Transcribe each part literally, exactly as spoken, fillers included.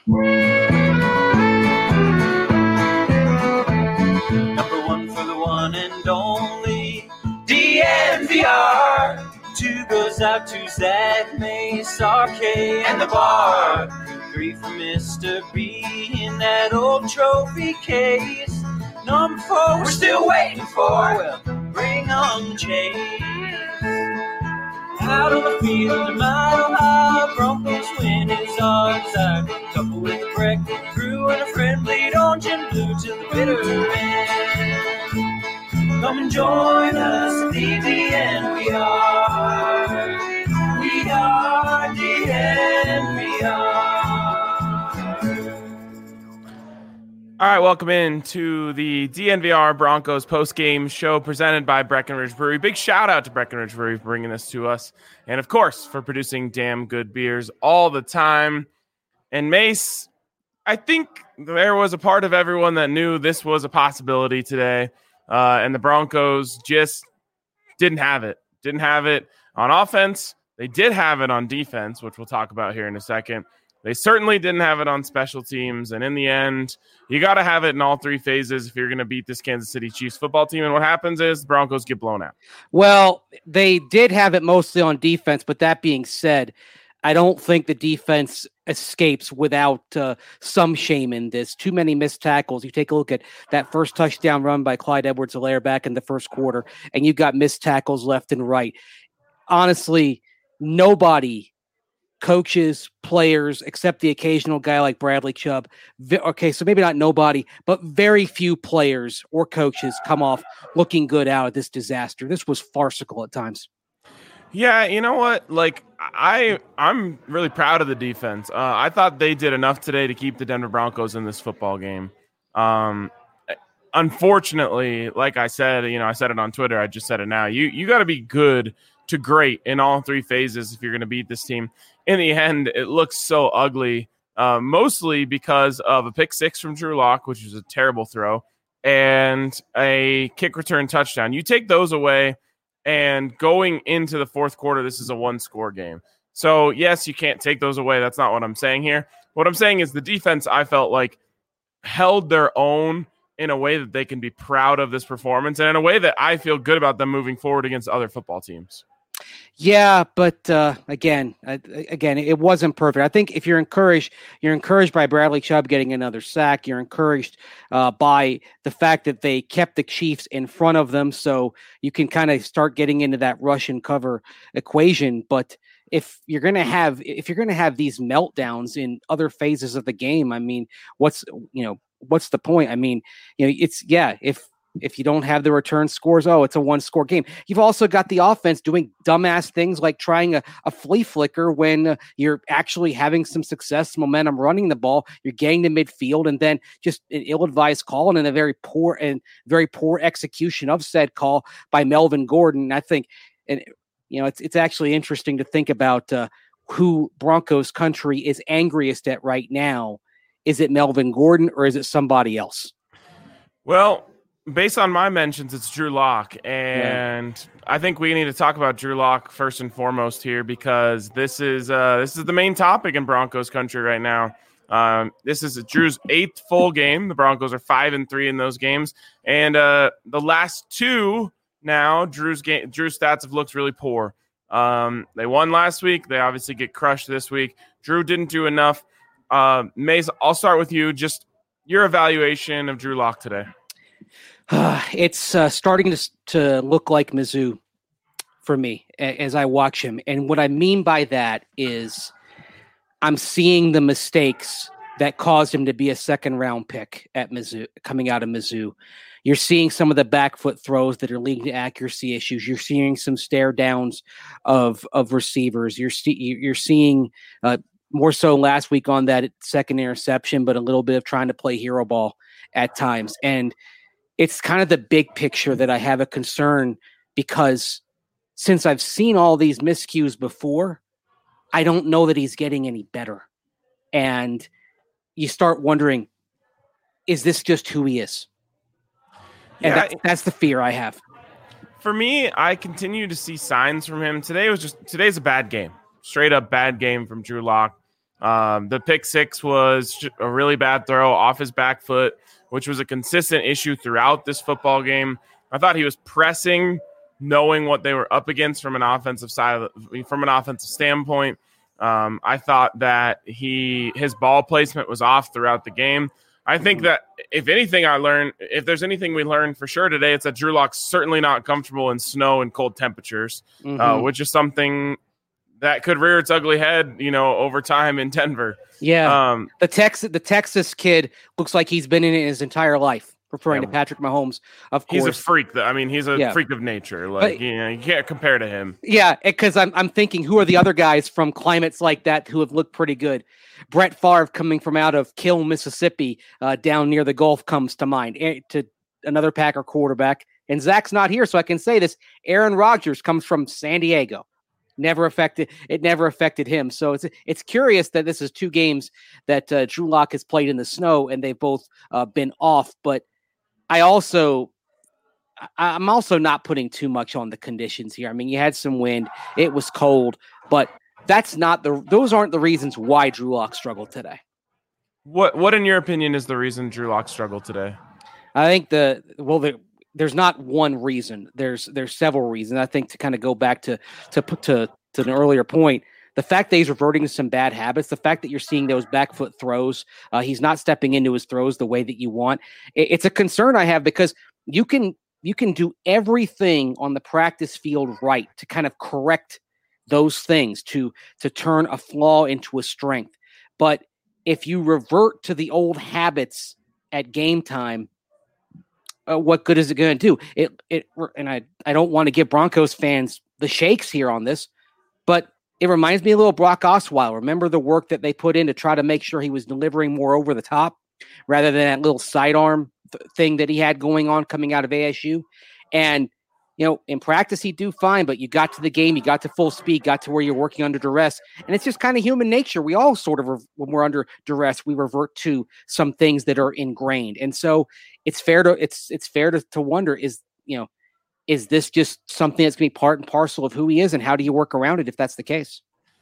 Number one for the one and only D N V R. Two goes out to Zach Mace, R K, and the bar. Three for Mister B in that old trophy case. Number four, we're still waiting for. Well, bring on the chase. Out on the field, a mile high, Broncos win is our desire. Couple with a breakfast crew and a friend, bleed orange and blue to the bitter end. Come and join us at the D N V R. We are D N V R. All right, welcome in to the D N V R Broncos post-game show presented by Breckenridge Brewery. Big shout out to Breckenridge Brewery for bringing this to us. And, of course, for producing damn good beers all the time. And, Mace, I think there was a part of everyone that knew this was a possibility today. Uh, and the Broncos just didn't have it. Didn't have it on offense. They did have it on defense, which we'll talk about here in a second. They certainly didn't have it on special teams. And in the end, you got to have it in all three phases if you're going to beat this Kansas City Chiefs football team. And what happens is the Broncos get blown out. Well, they did have it mostly on defense. But that being said, I don't think the defense escapes without uh, some shame in this. Too many missed tackles. You take a look at that first touchdown run by Clyde Edwards-Helaire back in the first quarter, and you've got missed tackles left and right. Honestly, nobody, coaches, players, except the occasional guy like Bradley Chubb. Vi- okay, so maybe not nobody, but very few players or coaches come off looking good out of this disaster. This was farcical at times. Yeah, you know what? Like, I, I'm really proud of the defense. Uh, I thought they did enough today to keep the Denver Broncos in this football game. Um, unfortunately, like I said, you know, I said it on Twitter. I just said it now. You, you got to be good to great in all three phases if you're going to beat this team. In the end, it looks so ugly, uh, mostly because of a pick six from Drew Lock, which was a terrible throw, and a kick return touchdown. You take those away, and going into the fourth quarter, this is a one-score game. So, yes, you can't take those away. That's not what I'm saying here. What I'm saying is the defense, I felt like, held their own in a way that they can be proud of this performance and in a way that I feel good about them moving forward against other football teams. Yeah, but uh, again, uh, again, it wasn't perfect. I think if you're encouraged, you're encouraged by Bradley Chubb getting another sack. You're encouraged uh, by the fact that they kept the Chiefs in front of them, so you can kind of start getting into that rush and cover equation. But if you're gonna have, if you're gonna have these meltdowns in other phases of the game, I mean, what's you know, what's the point? I mean, you know, it's yeah, if. If you don't have the return scores, oh, it's a one-score game. You've also got the offense doing dumbass things like trying a, a flea flicker when uh, you're actually having some success, momentum running the ball. You're getting to midfield, and then just an ill-advised call and a very poor and very poor execution of said call by Melvin Gordon. And I think, and you know, it's it's actually interesting to think about uh, who Broncos country is angriest at right now. Is it Melvin Gordon or is it somebody else? Well, based on my mentions, it's Drew Lock, and yeah. I think we need to talk about Drew Lock first and foremost here because this is uh, this is the main topic in Broncos country right now. Um, this is Drew's eighth full game. The Broncos are five and three in those games, and uh, the last two now, Drew's game, Drew's stats have looked really poor. Um, they won last week. They obviously get crushed this week. Drew didn't do enough. Uh, Mace, I'll start with you. Just your evaluation of Drew Lock today. It's uh, starting to to look like Mizzou for me as I watch him. And what I mean by that is I'm seeing the mistakes that caused him to be a second round pick at Mizzou, coming out of Mizzou. You're seeing some of the back foot throws that are leading to accuracy issues. You're seeing some stare downs of of receivers. You're you're seeing uh, more so last week on that second interception, but a little bit of trying to play hero ball at times. And it's kind of the big picture that I have a concern because since I've seen all these miscues before, I don't know that he's getting any better. And you start wondering, is this just who he is? And yeah, that's, that's the fear I have. For me, I continue to see signs from him. Today was just today's a bad game. Straight up bad game from Drew Lock. Um, the pick six was a really bad throw off his back foot, which was a consistent issue throughout this football game. I thought he was pressing, knowing what they were up against from an offensive side, from an offensive standpoint. Um, I thought that he his ball placement was off throughout the game. I think that if anything I learned, if there's anything we learned for sure today, it's that Drew Lock's certainly not comfortable in snow and cold temperatures, mm-hmm. uh, which is something that could rear its ugly head, you know, over time in Denver. Yeah, um, the Texas the Texas kid looks like he's been in it his entire life. Referring yeah. to Patrick Mahomes, of course. He's a freak. I mean, he's a yeah. freak of nature. Like, but, you know, you can't compare to him. Yeah, because I'm I'm thinking, who are the other guys from climates like that who have looked pretty good? Brett Favre, coming from out of Kill, Mississippi, uh, down near the Gulf, comes to mind. To another Packer quarterback, and Zach's not here, so I can say this. Aaron Rodgers comes from San Diego. Never affected it. Never affected him. So it's it's curious that this is two games that uh, Drew Lock has played in the snow, and they've both uh, been off, but. I also, I'm also not putting too much on the conditions here. I mean, you had some wind, it was cold, but that's not the, those aren't the reasons why Drew Lock struggled today. What, what in your opinion is the reason Drew Lock struggled today? I think the, well, the, there's not one reason. There's, there's several reasons. I think to kind of go back to, to put to, to an earlier point, the fact that he's reverting to some bad habits, the fact that you're seeing those back foot throws, uh, he's not stepping into his throws the way that you want. It, it's a concern I have because you can you can do everything on the practice field right to kind of correct those things, to to turn a flaw into a strength. But if you revert to the old habits at game time, uh, what good is it going to do? It it and I I don't want to give Broncos fans the shakes here on this, but it reminds me a little Brock Osweiler. Remember the work that they put in to try to make sure he was delivering more over the top rather than that little sidearm th- thing that he had going on coming out of A S U. And, you know, in practice, he'd do fine, but you got to the game, you got to full speed, got to where you're working under duress. And it's just kind of human nature. We all sort of, when we're under duress, we revert to some things that are ingrained. And so it's fair to, it's, it's fair to, to wonder is, you know, is this just something that's going to be part and parcel of who he is, and how do you work around it if that's the case?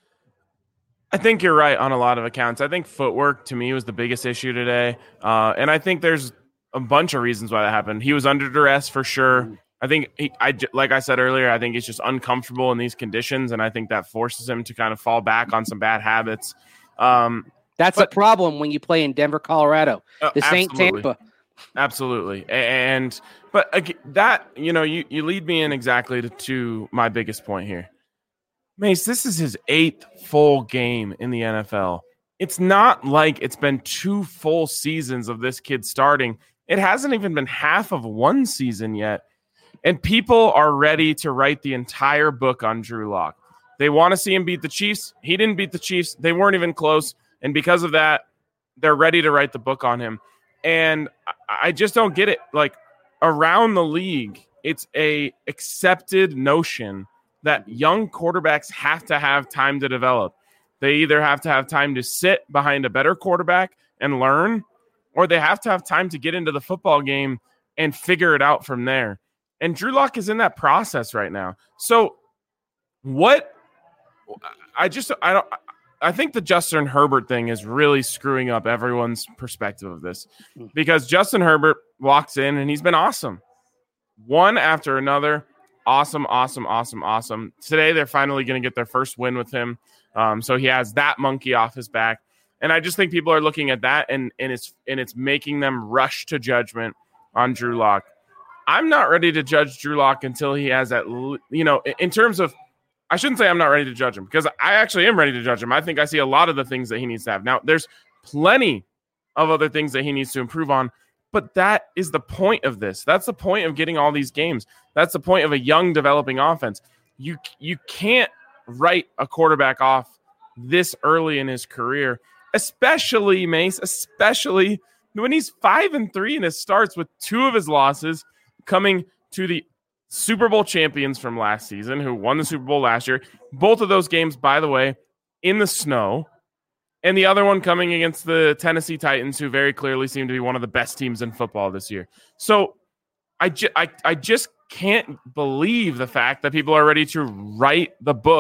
I think you're right on a lot of accounts. I think footwork, to me, was the biggest issue today. Uh, and I think there's a bunch of reasons why that happened. He was under duress for sure. I think, he, I, like I said earlier, I think he's just uncomfortable in these conditions, and I think that forces him to kind of fall back on some bad habits. Um, that's but, a problem when you play in Denver, Colorado. This uh, ain't Tampa. Absolutely. And but again, that, you know, you, you lead me in exactly to, to my biggest point here. Mace, this is his eighth full game in the N F L. It's not like it's been two full seasons of this kid starting. It hasn't even been half of one season yet. And people are ready to write the entire book on Drew Lock. They want to see him beat the Chiefs. He didn't beat the Chiefs. They weren't even close. And because of that, they're ready to write the book on him. And I just don't get it. Like, around the league, it's a accepted notion that young quarterbacks have to have time to develop. They either have to have time to sit behind a better quarterback and learn, or they have to have time to get into the football game and figure it out from there. And Drew Lock is in that process right now. So what I just, I don't, I think the Justin Herbert thing is really screwing up everyone's perspective of this, because Justin Herbert walks in and he's been awesome. One after another. Awesome, awesome, awesome, awesome. Today, they're finally going to get their first win with him. Um, so he has that monkey off his back. And I just think people are looking at that, and, and, it's, and it's making them rush to judgment on Drew Lock. I'm not ready to judge Drew Lock until he has that, you know, in terms of, I shouldn't say I'm not ready to judge him, because I actually am ready to judge him. I think I see a lot of the things that he needs to have. Now, there's plenty of other things that he needs to improve on, but that is the point of this. That's the point of getting all these games. That's the point of a young developing offense. You you can't write a quarterback off this early in his career, especially, Mace, especially when he's five and three in his starts, with two of his losses coming to the Super Bowl champions from last season, who won the Super Bowl last year. Both of those games, by the way, in the snow. And the other one coming against the Tennessee Titans, who very clearly seem to be one of the best teams in football this year. So I, ju- I, I just can't believe the fact that people are ready to write the book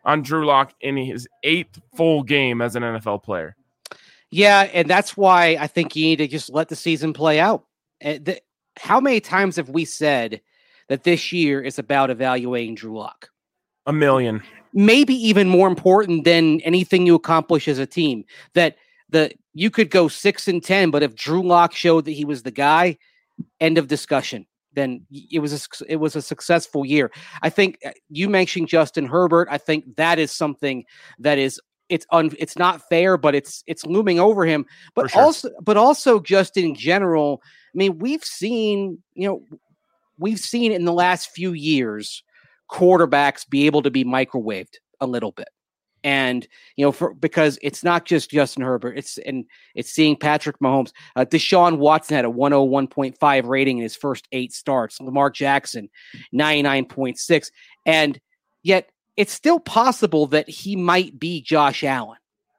on Drew Lock in his eighth full game as an N F L player. Yeah, and that's why I think you need to just let the season play out. The, how many times have we said that this year is about evaluating Drew Lock? A million. Maybe even more important than anything you accomplish as a team. That the you could go six and ten, but if Drew Lock showed that he was the guy, end of discussion. Then it was a, it was a successful year. I think you mentioned Justin Herbert. I think that is something that is it's un, it's not fair, but it's it's looming over him. But sure. also, but also just in general. I mean, we've seen you know we've seen in the last few years quarterbacks be able to be microwaved a little bit. And, you know, for because it's not just Justin Herbert, it's and it's seeing Patrick Mahomes. Uh, Deshaun Watson had a one oh one point five rating in his first eight starts. Lamar Jackson, ninety-nine point six. And yet it's still possible that he might be Josh Allen.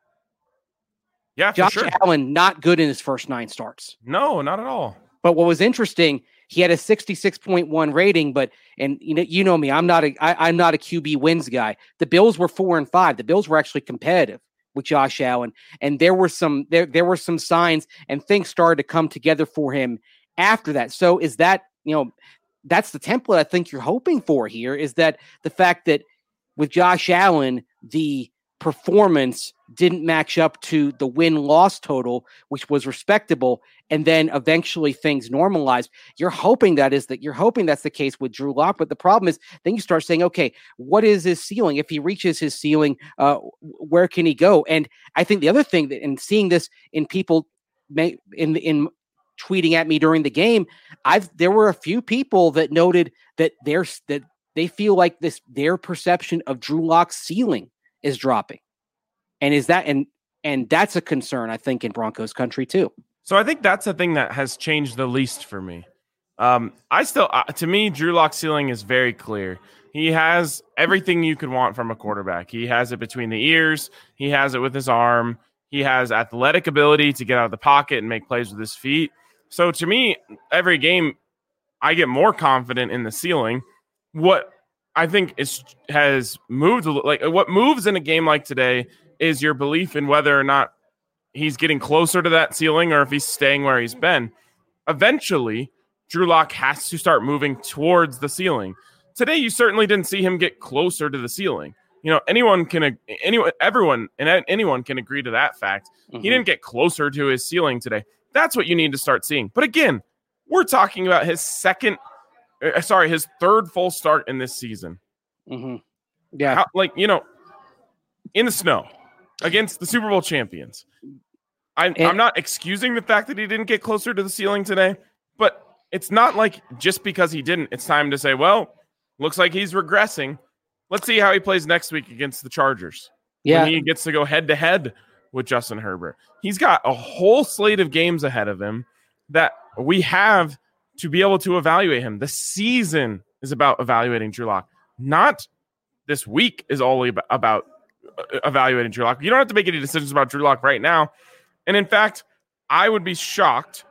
Yeah, for Josh sure. Allen, not good in his first nine starts. No, not at all. But what was interesting, he had a sixty-six point one rating, but and you know you know me, I'm not a I, I'm not a Q B wins guy. The Bills were four and five. The Bills were actually competitive with Josh Allen, and there were some there there were some signs and things started to come together for him after that. So is that you know that's the template I think you're hoping for here is that the fact that with Josh Allen the performance didn't match up to the win-loss total, which was respectable, and then eventually things normalized. You're hoping that is that you're hoping that's the case with Drew Lock, but the problem is then you start saying, okay, what is his ceiling? If he reaches his ceiling, uh, where can he go? And I think the other thing that, and seeing this in people may, in in tweeting at me during the game, I've there were a few people that noted that there's that they feel like this their perception of Drew Lock's ceiling is dropping. And is that and and that's a concern, I think, in Broncos country too. So I think that's the thing that has changed the least for me. Um, I still, uh, to me, Drew Lock's ceiling is very clear. He has everything you could want from a quarterback. He has it between the ears. He has it with his arm. He has athletic ability to get out of the pocket and make plays with his feet. So to me, every game, I get more confident in the ceiling. What I think is has moved, like what moves in a game like today is your belief in whether or not he's getting closer to that ceiling or if he's staying where he's been. Eventually, Drew Lock has to start moving towards the ceiling. Today, you certainly didn't see him get closer to the ceiling. You know, anyone can, anyone, everyone, and anyone can agree to that fact. Mm-hmm. He didn't get closer to his ceiling today. That's what you need to start seeing. But again, we're talking about his second, uh, sorry, his third full start in this season. Mm-hmm. Yeah. How, like, you know, in the snow against the Super Bowl champions. I'm, and, I'm not excusing the fact that he didn't get closer to the ceiling today, but it's not like just because he didn't, it's time to say, well, looks like he's regressing. Let's see how he plays next week against the Chargers. Yeah. When he gets to go head to head with Justin Herbert. He's got a whole slate of games ahead of him that we have to be able to evaluate him. The season is about evaluating Drew Lock. Not this week is all about evaluating Drew Lock. You don't have to make any decisions about Drew Lock right now. And in fact, I would be shocked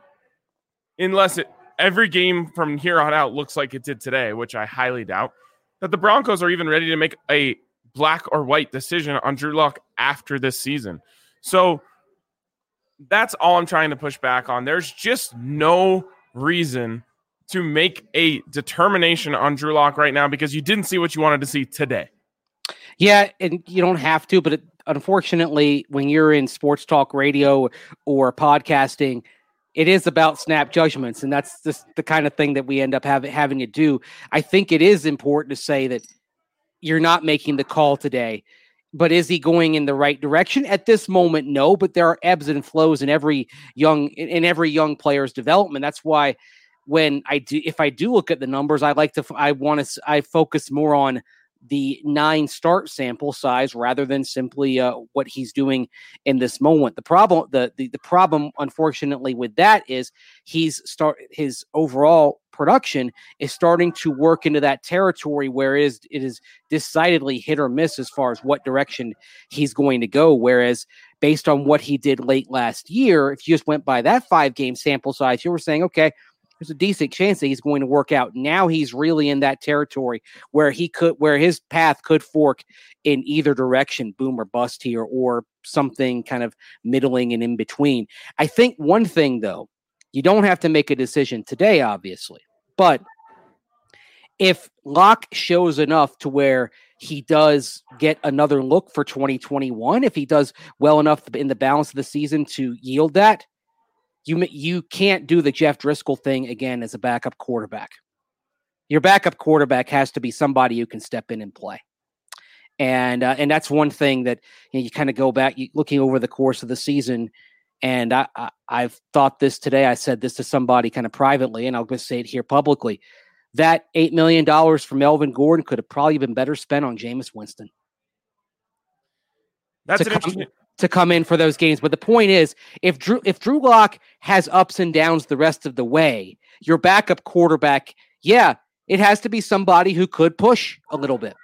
unless it, every game from here on out looks like it did today, which I highly doubt, that the Broncos are even ready to make a black or white decision on Drew Lock after this season. So that's all I'm trying to push back on. There's just no reason to make a determination on Drew Lock right now because you didn't see what you wanted to see today. Yeah, and you don't have to, but it, unfortunately, when you're in sports talk radio or podcasting, it is about snap judgments, and that's just the kind of thing that we end up have, having to do. I think it is important to say that you're not making the call today, but is he going in the right direction? At this moment, no, but there are ebbs and flows in every young in every young player's development. That's why when I do, if I do look at the numbers, I like to, I want to, I focus more on the nine start sample size rather than simply uh, what he's doing in this moment. The problem, the, the the problem, unfortunately, with that is he's start his overall production is starting to work into that territory where it is, it is decidedly hit or miss as far as what direction he's going to go. Whereas based on what he did late last year, if you just went by that five game sample size, you were saying, okay, there's a decent chance that he's going to work out. Now he's really in that territory where he could, where his path could fork in either direction, boom or bust here, or something kind of middling and in between. I think one thing though, you don't have to make a decision today, obviously, but if Locke shows enough to where he does get another look for twenty twenty-one, if he does well enough in the balance of the season to yield that, you you can't do the Jeff Driscoll thing again as a backup quarterback. Your backup quarterback has to be somebody who can step in and play. And uh, and that's one thing that you, know, you kind of go back, you, looking over the course of the season, and I, I, I've thought this today. I said this to somebody kind of privately, and I'll just say it here publicly. That eight million dollars for Melvin Gordon could have probably been better spent on Jameis Winston. That's to an come, interesting... to come in for those games. But the point is, if Drew if Drew Lock has ups and downs the rest of the way, your backup quarterback, yeah, it has to be somebody who could push a little bit.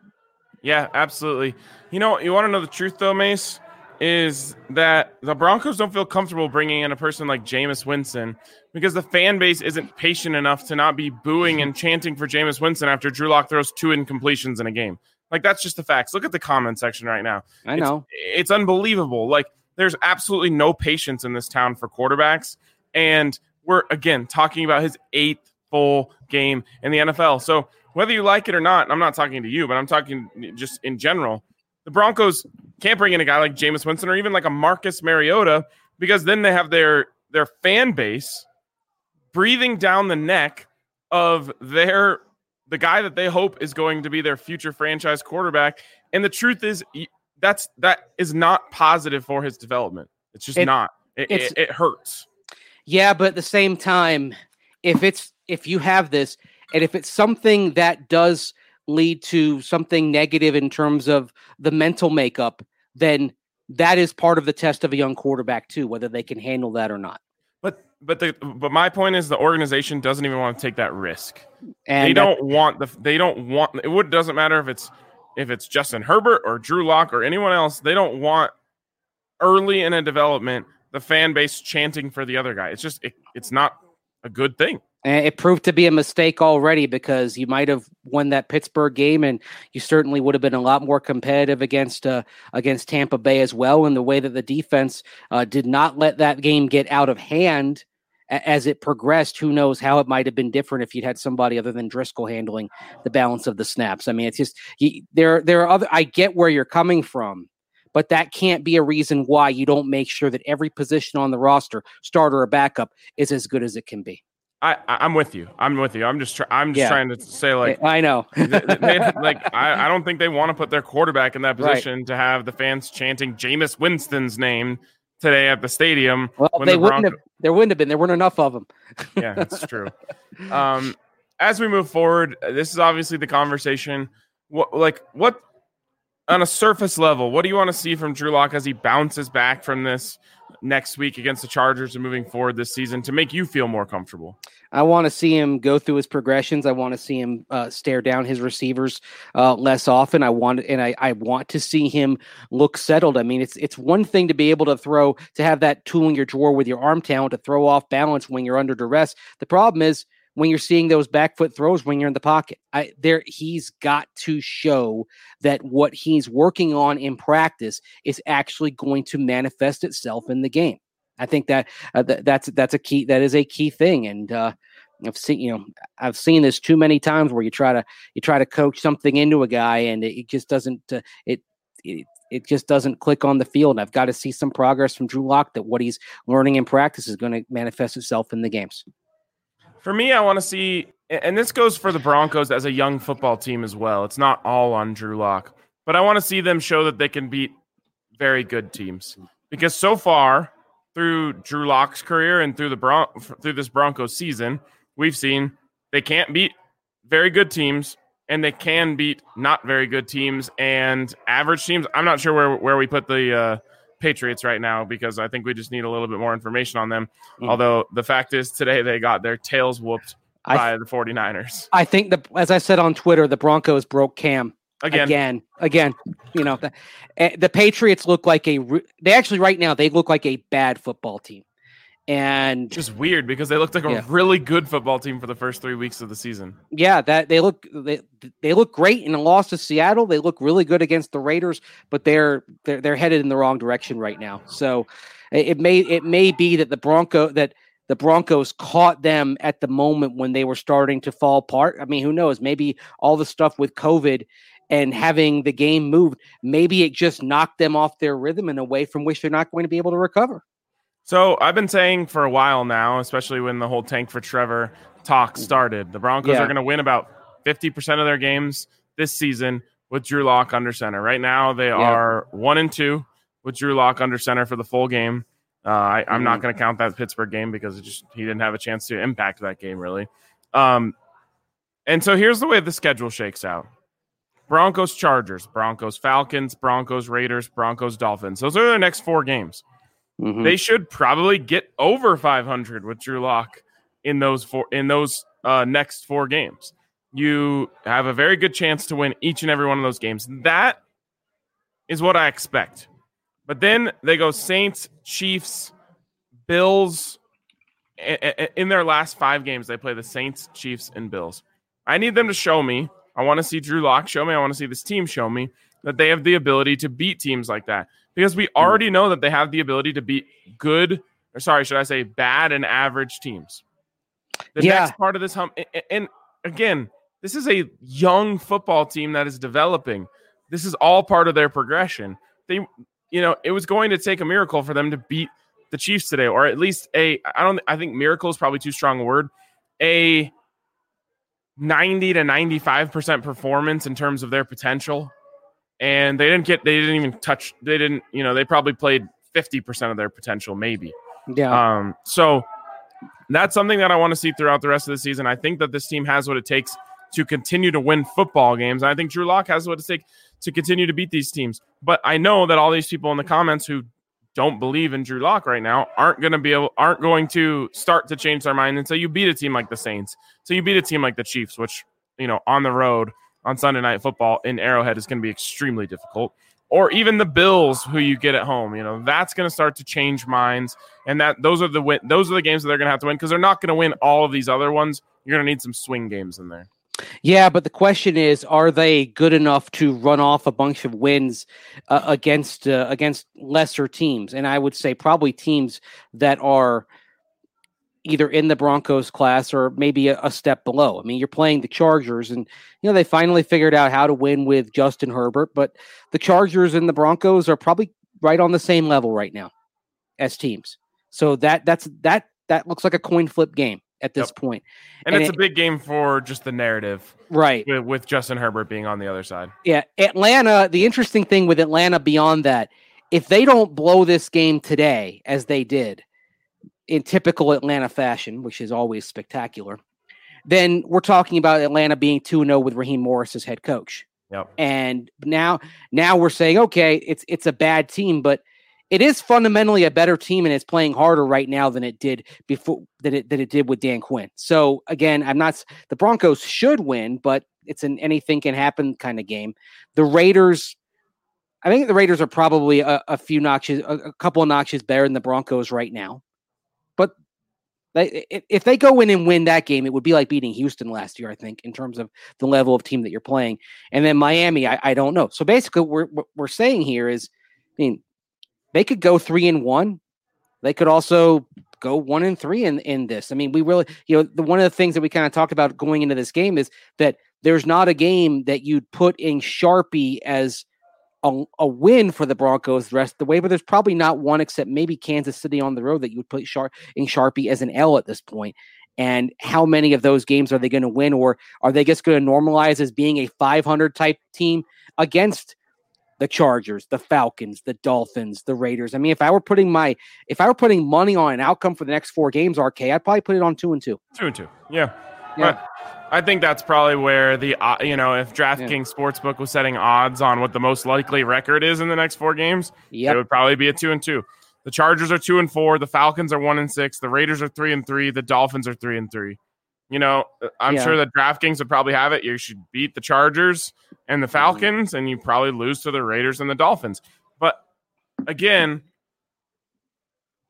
Yeah, absolutely. You know, you want to know the truth, though, Mace, is that the Broncos don't feel comfortable bringing in a person like Jameis Winston because the fan base isn't patient enough to not be booing and chanting for Jameis Winston after Drew Lock throws two incompletions in a game. Like, that's just the facts. Look at the comment section right now. I know. It's, it's unbelievable. Like, there's absolutely no patience in this town for quarterbacks. And we're, again, talking about his eighth full game in the N F L. So whether you like it or not, I'm not talking to you, but I'm talking just in general, the Broncos can't bring in a guy like Jameis Winston or even like a Marcus Mariota because then they have their their fan base breathing down the neck of their the guy that they hope is going to be their future franchise quarterback. And the truth is that's that is not positive for his development. It's just it, not. It, it's, it, it hurts. Yeah, but at the same time, if it's if you have this and if it's something that does lead to something negative in terms of the mental makeup, then that is part of the test of a young quarterback too, whether they can handle that or not. But but the but my point is the organization doesn't even want to take that risk. And they don't want the they don't want it would doesn't matter if it's if it's Justin Herbert or Drew Lock or anyone else, they don't want early in a development the fan base chanting for the other guy. It's just it, it's not a good thing. And it proved to be a mistake already because you might have won that Pittsburgh game, and you certainly would have been a lot more competitive against uh, against Tampa Bay as well. And the way that the defense uh, did not let that game get out of hand a- as it progressed, who knows how it might have been different if you'd had somebody other than Driscoll handling the balance of the snaps. I mean, it's just you, there. There are other. I get where you're coming from. But that can't be a reason why you don't make sure that every position on the roster, starter or backup, is as good as it can be. I, I'm with you. I'm with you. I'm just, try, I'm just yeah. trying to say, like, I know, they, they, like, I, I don't think they want to put their quarterback in that position right. to have the fans chanting Jameis Winston's name today at the stadium. Well, when they the wouldn't Bronco- have. There wouldn't have been. There weren't enough of them. Yeah, that's true. Um, as we move forward, this is obviously the conversation. What, like, what on a surface level, what do you want to see from Drew Lock as he bounces back from this next week against the Chargers and moving forward this season to make you feel more comfortable? I want to see him go through his progressions. I want to see him uh, stare down his receivers uh, less often. I want and I, I want to see him look settled. I mean, it's it's one thing to be able to throw, to have that tool in your drawer with your arm talent to throw off balance when you're under duress. The problem is when you're seeing those back foot throws when you're in the pocket. I, there, he's got to show that what he's working on in practice is actually going to manifest itself in the game. I think that uh, th- that's that's a key. That is a key thing, and uh, I've seen you know I've seen this too many times where you try to you try to coach something into a guy and it, it just doesn't uh, it, it it just doesn't click on the field. And I've got to see some progress from Drew Lock that what he's learning in practice is going to manifest itself in the games. For me, I want to see, and this goes for the Broncos as a young football team as well. It's not all on Drew Lock, but I want to see them show that they can beat very good teams because so far, through Drew Lock's career and through the Bron- through this Broncos season, we've seen they can't beat very good teams and they can beat not very good teams and average teams. I'm not sure where, where we put the uh, Patriots right now because I think we just need a little bit more information on them. Mm. Although the fact is today they got their tails whooped I, by the 49ers. I think, the as I said on Twitter, the Broncos broke Cam. Again, again, again, you know, the, the Patriots look like a, they actually right now, they look like a bad football team. And just weird because they looked like a yeah. really good football team for the first three weeks of the season. Yeah, that they look they, they look great in a loss to Seattle. They look really good against the Raiders, but they're they're they're headed in the wrong direction right now. So it may it may be that the Bronco that the Broncos caught them at the moment when they were starting to fall apart. I mean, who knows? Maybe all the stuff with COVID and having the game moved, maybe it just knocked them off their rhythm in a way from which they're not going to be able to recover. So I've been saying for a while now, especially when the whole tank for Trevor talk started, the Broncos yeah. are going to win about fifty percent of their games this season with Drew Lock under center. Right now, they yeah. are one and two with Drew Lock under center for the full game. Uh, I, I'm mm-hmm. not going to count that Pittsburgh game because it just he didn't have a chance to impact that game really. Um, and so here's the way the schedule shakes out. Broncos, Chargers, Broncos, Falcons, Broncos, Raiders, Broncos, Dolphins. Those are their next four games. Mm-hmm. They should probably get over five hundred with Drew Lock in those four in those uh, next four games. You have a very good chance to win each and every one of those games. That is what I expect. But then they go Saints, Chiefs, Bills. In their last five games, they play the Saints, Chiefs, and Bills. I need them to show me. I want to see Drew Lock show me. I want to see this team show me that they have the ability to beat teams like that. Because we already know that they have the ability to beat good, or sorry, should I say bad and average teams. The yeah. next part of this hump, and again, this is a young football team that is developing. This is all part of their progression. They, you know, it was going to take a miracle for them to beat the Chiefs today, or at least a, I don't, I think miracle is probably too strong a word, a ninety to ninety-five percent performance in terms of their potential. And they didn't get, they didn't even touch, they didn't, you know, they probably played fifty percent of their potential, maybe. Yeah. Um, so that's something that I want to see throughout the rest of the season. I think that this team has what it takes to continue to win football games. And I think Drew Lock has what it takes to continue to beat these teams. But I know that all these people in the comments who don't believe in Drew Lock right now aren't going to be able, aren't going to start to change their mind. And so you beat a team like the Saints. So you beat a team like the Chiefs, which, you know, on the road, on Sunday Night Football in Arrowhead is going to be extremely difficult. Or even the Bills, who you get at home, you know, that's going to start to change minds. And that those are the win- those are the games that they're going to have to win because they're not going to win all of these other ones. You're going to need some swing games in there. Yeah, but the question is, are they good enough to run off a bunch of wins uh, against uh, against lesser teams? And I would say probably teams that are either in the Broncos class or maybe a, a step below. I mean, you're playing the Chargers and, you know, they finally figured out how to win with Justin Herbert, but the Chargers and the Broncos are probably right on the same level right now as teams. So that that's that that looks like a coin flip game at this yep. point. And, and it's it, a big game for just the narrative. Right. With, with Justin Herbert being on the other side. Yeah. Atlanta, the interesting thing with Atlanta beyond that, if they don't blow this game today, as they did, in typical Atlanta fashion, which is always spectacular, then we're talking about Atlanta being two and oh with Raheem Morris as head coach. Yep. And now, now we're saying, okay, it's it's a bad team, but it is fundamentally a better team, and it's playing harder right now than it did before that it that it did with Dan Quinn. So again, I'm not the Broncos should win, but it's an anything can happen kind of game. The Raiders, I think the Raiders are probably a, a few notches, a, a couple of notches better than the Broncos right now. But they, if they go in and win that game, it would be like beating Houston last year, I think, in terms of the level of team that you're playing. And then Miami, I, I don't know. So basically, we're, what we're saying here is, I mean, they could go three and one. They could also go one and three in, in this. I mean, we really, you know, the, one of the things that we kind of talked about going into this game is that there's not a game that you'd put in Sharpie as A, a win for the Broncos the rest of the way, but there's probably not one except maybe Kansas City on the road that you would put Sharp in Sharpie as an L at this point. And how many of those games are they going to win, or are they just going to normalize as being a five hundred type team against the Chargers, the Falcons, the Dolphins, the Raiders? I mean, if I were putting my if I were putting money on an outcome for the next four games, R K, I'd probably put it on two and two. Two and two, yeah. Yeah. But I think that's probably where the, uh, you know, if DraftKings yeah. Sportsbook was setting odds on what the most likely record is in the next four games, yep. it would probably be a two and two. The Chargers are two and four. The Falcons are one and six. The Raiders are three and three. The Dolphins are three and three. You know, I'm yeah. sure that DraftKings would probably have it. You should beat the Chargers and the Falcons, mm-hmm. and you probably lose to the Raiders and the Dolphins. But again,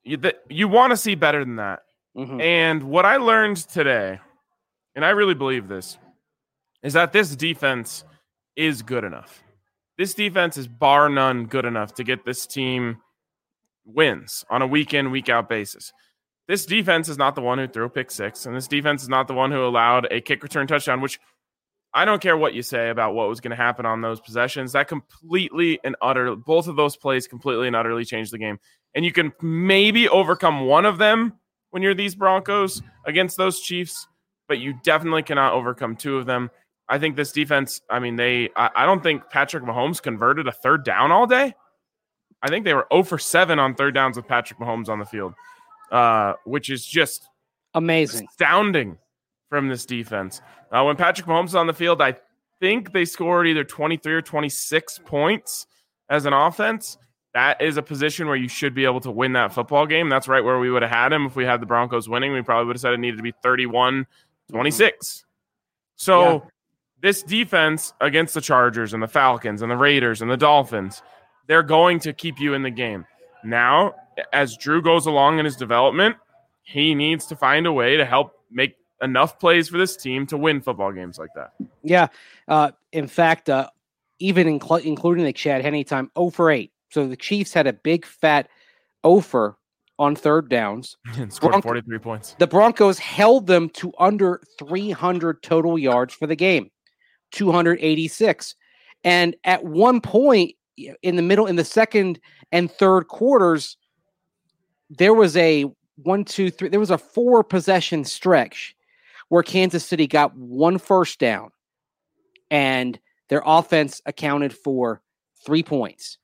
you, you want to see better than that. Mm-hmm. And what I learned today, and I really believe this, is that this defense is good enough. This defense is bar none good enough to get this team wins on a week in, week out basis. This defense is not the one who threw a pick six, and this defense is not the one who allowed a kick return touchdown, which I don't care what you say about what was going to happen on those possessions. That completely and utterly, both of those plays completely and utterly changed the game. And you can maybe overcome one of them when you're these Broncos against those Chiefs, but you definitely cannot overcome two of them. I think this defense, I mean, they, I, I don't think Patrick Mahomes converted a third down all day. I think they were zero for seven on third downs with Patrick Mahomes on the field, uh, which is just amazing, astounding from this defense. Uh, when Patrick Mahomes is on the field, I think they scored either twenty-three or twenty-six points as an offense. That is a position where you should be able to win that football game. That's right where we would have had him. If we had the Broncos winning, we probably would have said it needed to be thirty-one twenty-six. So yeah. This defense against the Chargers and the Falcons and the Raiders and the Dolphins, they're going to keep you in the game. Now, as Drew goes along in his development, he needs to find a way to help make enough plays for this team to win football games like that. Yeah. Uh, in fact, uh, even inc- including the Chad Henne time, zero for eight. So the Chiefs had a big fat zero for on third downs. And scored Bronco- forty-three points. The Broncos held them to under three hundred total yards for the game, two hundred eighty-six. And at one point in the middle, in the second and third quarters, there was a one, two, three, there was a four possession stretch where Kansas City got one first down and their offense accounted for three points.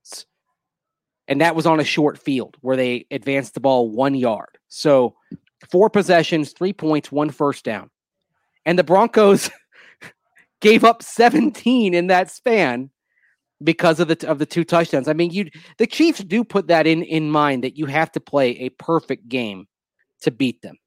And that was on a short field where they advanced the ball one yard. So four possessions, three points, one first down. And the Broncos gave up seventeen in that span because of the of the two touchdowns. I mean, you the Chiefs do put that in, in mind that you have to play a perfect game to beat them.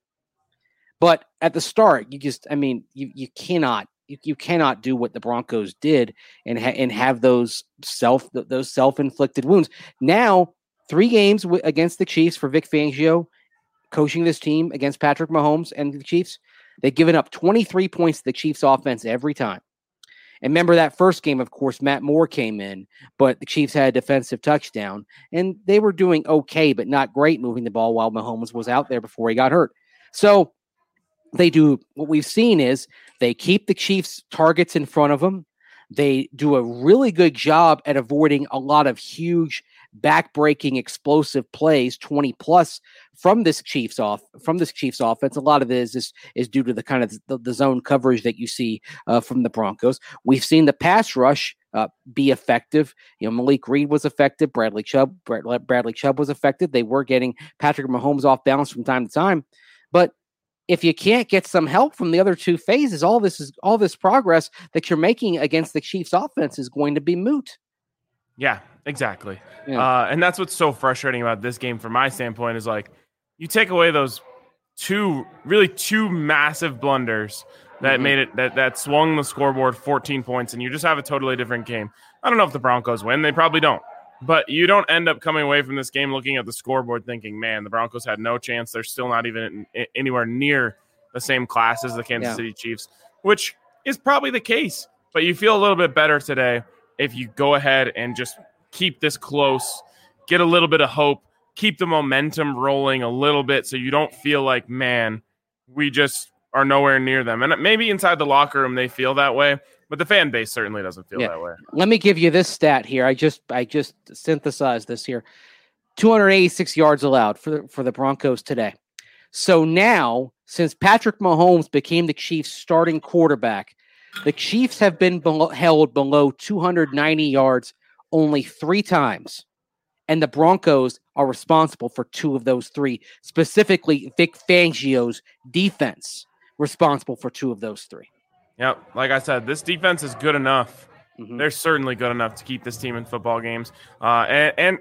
But at the start, you just, I mean, you you cannot you, you cannot do what the Broncos did and ha- and have those self those self-inflicted wounds. Now, three games w- against the Chiefs for Vic Fangio, coaching this team against Patrick Mahomes and the Chiefs. They've given up twenty-three points to the Chiefs offense every time. And remember that first game, of course, Matt Moore came in, but the Chiefs had a defensive touchdown, and they were doing okay, but not great moving the ball while Mahomes was out there before he got hurt. So they do what we've seen is they keep the Chiefs targets in front of them. They do a really good job at avoiding a lot of huge back-breaking explosive plays, twenty plus from this Chiefs off from this Chiefs offense. A lot of it is is, is due to the kind of the, the zone coverage that you see uh, from the Broncos. We've seen the pass rush uh, be effective. You know, Malik Reed was effective. Bradley Chubb, Brad, Bradley Chubb was effective. They were getting Patrick Mahomes off balance from time to time, but if you can't get some help from the other two phases, all this is all this progress that you're making against the Chiefs offense is going to be moot. Yeah, exactly. Yeah. Uh, and that's what's so frustrating about this game from my standpoint is like you take away those two, really two massive blunders that mm-hmm. made it, that, that swung the scoreboard fourteen points, and you just have a totally different game. I don't know if the Broncos win. They probably don't. But you don't end up coming away from this game looking at the scoreboard thinking, man, the Broncos had no chance. They're still not even in, anywhere near the same class as the Kansas yeah. City Chiefs, which is probably the case. But you feel a little bit better today if you go ahead and just keep this close, get a little bit of hope, keep the momentum rolling a little bit so you don't feel like, man, we just are nowhere near them. And maybe inside the locker room they feel that way. But the fan base certainly doesn't feel yeah. that way. Let me give you this stat here. I just I just synthesized this here. two hundred eighty-six yards allowed for the, for the Broncos today. So now, since Patrick Mahomes became the Chiefs' starting quarterback, the Chiefs have been below, held below two hundred ninety yards only three times. And the Broncos are responsible for two of those three, specifically Vic Fangio's defense responsible for two of those three. Yep, like I said, this defense is good enough. Mm-hmm. They're certainly good enough to keep this team in football games. Uh, and, and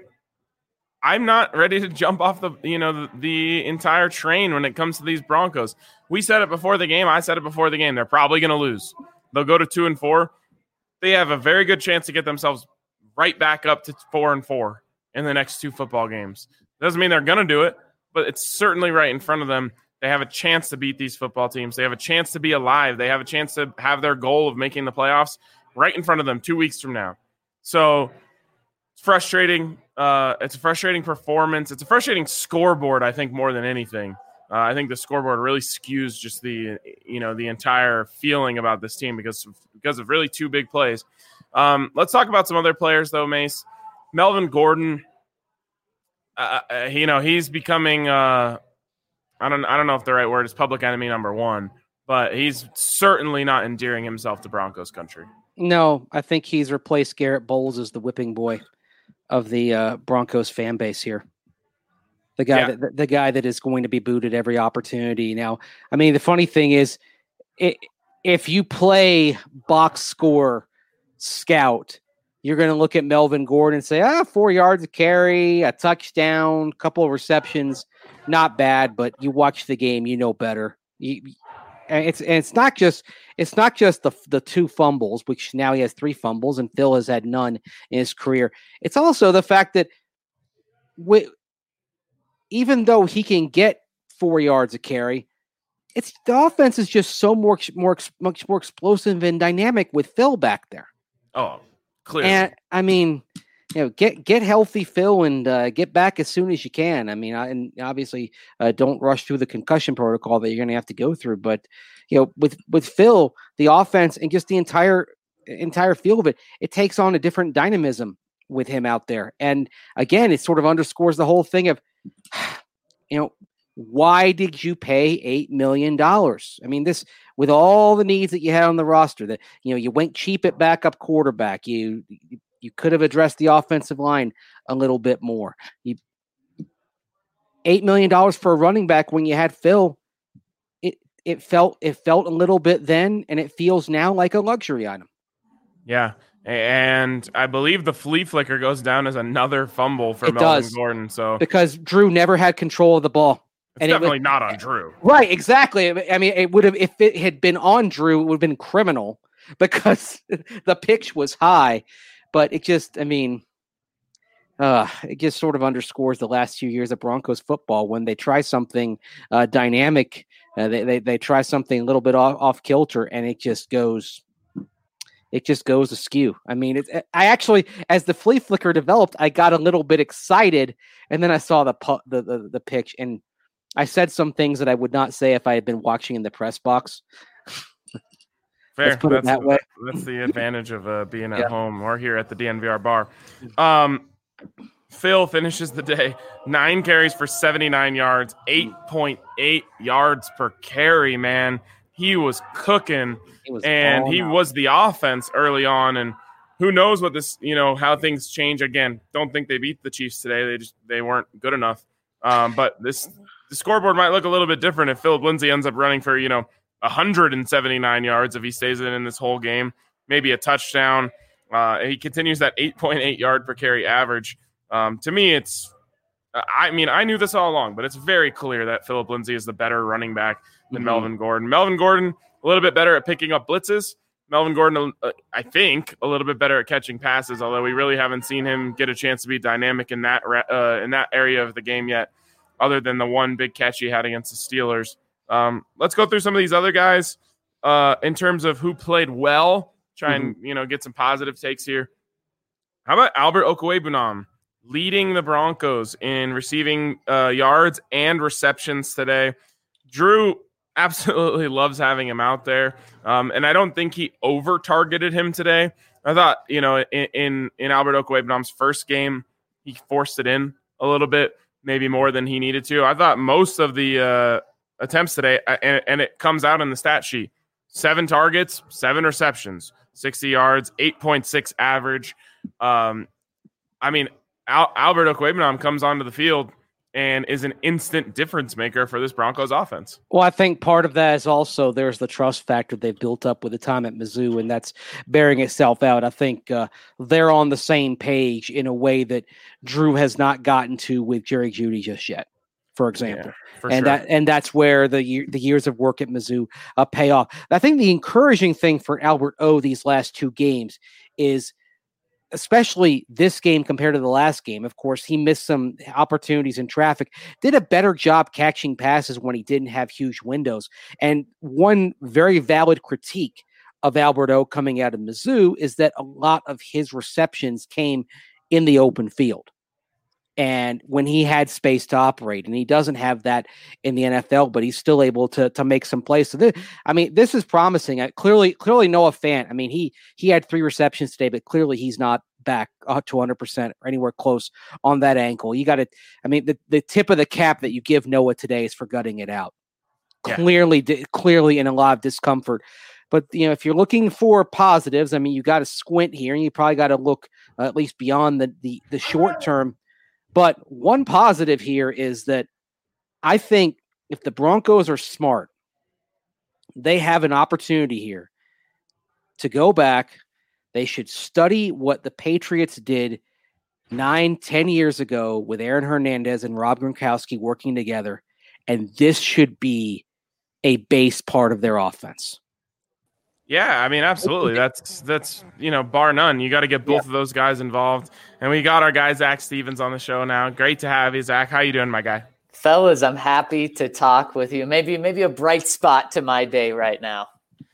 I'm not ready to jump off the you know the, the entire train when it comes to these Broncos. We said it before the game. I said it before the game. They're probably going to lose. They'll go to two and four. They have a very good chance to get themselves right back up to four and four in the next two football games. Doesn't mean they're going to do it, but it's certainly right in front of them. They have a chance to beat these football teams. They have a chance to be alive. They have a chance to have their goal of making the playoffs right in front of them two weeks from now. So it's frustrating. Uh, it's a frustrating performance. It's a frustrating scoreboard, I think, more than anything. Uh, I think the scoreboard really skews just the, you know, the entire feeling about this team because of, because of really two big plays. Um, let's talk about some other players, though, Mace. Melvin Gordon, uh, you know, he's becoming uh, – I don't I don't know if the right word is public enemy number one, but he's certainly not endearing himself to Broncos country. No, I think he's replaced Garrett Bowles as the whipping boy of the uh, Broncos fan base here. The guy, yeah. that, the guy that is going to be booted every opportunity. Now, I mean, the funny thing is, it, if you play box score scout, you're going to look at Melvin Gordon and say, ah, four yards of carry, a touchdown, a couple of receptions. Not bad, but you watch the game, you know better. You, and it's and it's not just it's not just the the two fumbles, which now he has three fumbles, and Phil has had none in his career. It's also the fact that we, even though he can get four yards of carry, it's the offense is just so more more much more explosive and dynamic with Phil back there. Oh, clearly. And I mean. You know, get get healthy, Phil, and uh, get back as soon as you can. I mean, I, and obviously, uh, don't rush through the concussion protocol that you're going to have to go through. But you know, with with Phil, the offense and just the entire entire feel of it, it takes on a different dynamism with him out there. And again, it sort of underscores the whole thing of, you know, why did you pay eight million dollars? I mean, this with all the needs that you had on the roster, that you know, you went cheap at backup quarterback. You. you You could have addressed the offensive line a little bit more. You, eight million dollars for a running back when you had Phil, it it felt it felt a little bit then, and it feels now like a luxury item. Yeah, and I believe the flea flicker goes down as another fumble for it Melvin does, Gordon. So because Drew never had control of the ball. It's and definitely it was, not on Drew. Right, exactly. I mean, it would have if it had been on Drew, it would have been criminal because the pitch was high. But it just, I mean, uh, it just sort of underscores the last few years of Broncos football when they try something uh, dynamic, uh, they, they they try something a little bit off, off kilter, and it just goes, it just goes askew. I mean, it, I actually, as the flea flicker developed, I got a little bit excited, and then I saw the pu- the, the the pitch, and I said some things that I would not say if I had been watching in the press box. Fair. Let's put that's, it that way. That's the advantage of uh, being at yeah. home or here at the D N V R bar. Um, Phil finishes the day, nine carries for seventy-nine yards, eight point eight yards per carry, man. He was cooking, he was and he out. was the offense early on. And who knows what this, you know, how things change. Again, don't think they beat the Chiefs today. They just they weren't good enough. Um, but this the scoreboard might look a little bit different if Philip Lindsay ends up running for, you know, one hundred seventy-nine yards if he stays in, in this whole game, maybe a touchdown. Uh, he continues that eight point eight yard per carry average. Um, to me, it's, I mean, I knew this all along, but it's very clear that Philip Lindsay is the better running back than mm-hmm. Melvin Gordon. Melvin Gordon, a little bit better at picking up blitzes. Melvin Gordon, uh, I think, a little bit better at catching passes, although we really haven't seen him get a chance to be dynamic in that, uh, in that area of the game yet, other than the one big catch he had against the Steelers. Um, let's go through some of these other guys uh, in terms of who played well. Try and mm-hmm. you know get some positive takes here. How about Albert Okwuegbunam leading the Broncos in receiving uh, yards and receptions today? Drew absolutely loves having him out there, um, and I don't think he over targeted him today. I thought you know in in, in Albert Okwuegbunam's first game he forced it in a little bit, maybe more than he needed to. I thought most of the uh, attempts today, and, and it comes out in the stat sheet. Seven targets, seven receptions, sixty yards, eight point six average. Um, I mean, Al- Albert Okwuegbunam comes onto the field and is an instant difference maker for this Broncos offense. Well, I think part of that is also there's the trust factor they've built up with the time at Mizzou, and that's bearing itself out. I think uh, they're on the same page in a way that Drew has not gotten to with Jerry Jeudy just yet, for example. Yeah, for and sure. that and that's where the year, the years of work at Mizzou uh, pay off. I think the encouraging thing for Albert O these last two games is especially this game compared to the last game. Of course, he missed some opportunities in traffic, did a better job catching passes when he didn't have huge windows. And one very valid critique of Albert O coming out of Mizzou is that a lot of his receptions came in the open field. And when he had space to operate, and he doesn't have that in the N F L, but he's still able to to make some plays. So, this, I mean, this is promising. I, clearly, clearly Noah Fant. I mean, he he had three receptions today, but clearly he's not back uh, to one hundred percent or anywhere close on that ankle. You got to, I mean, the, the tip of the cap that you give Noah today is for gutting it out. Yeah. Clearly, di- clearly in a lot of discomfort. But, you know, if you're looking for positives, I mean, you got to squint here, and you probably got to look uh, at least beyond the the, the short term. But one positive here is that I think if the Broncos are smart, they have an opportunity here to go back. They should study what the Patriots did nine, ten years ago with Aaron Hernandez and Rob Gronkowski working together. And this should be a base part of their offense. Yeah, I mean, absolutely. That's, that's you know, bar none. You got to get both yeah. of those guys involved. And we got our guy, Zach Stevens, on the show now. Great to have you, Zach. How you doing, my guy? Fellas, I'm happy to talk with you. Maybe maybe a bright spot to my day right now.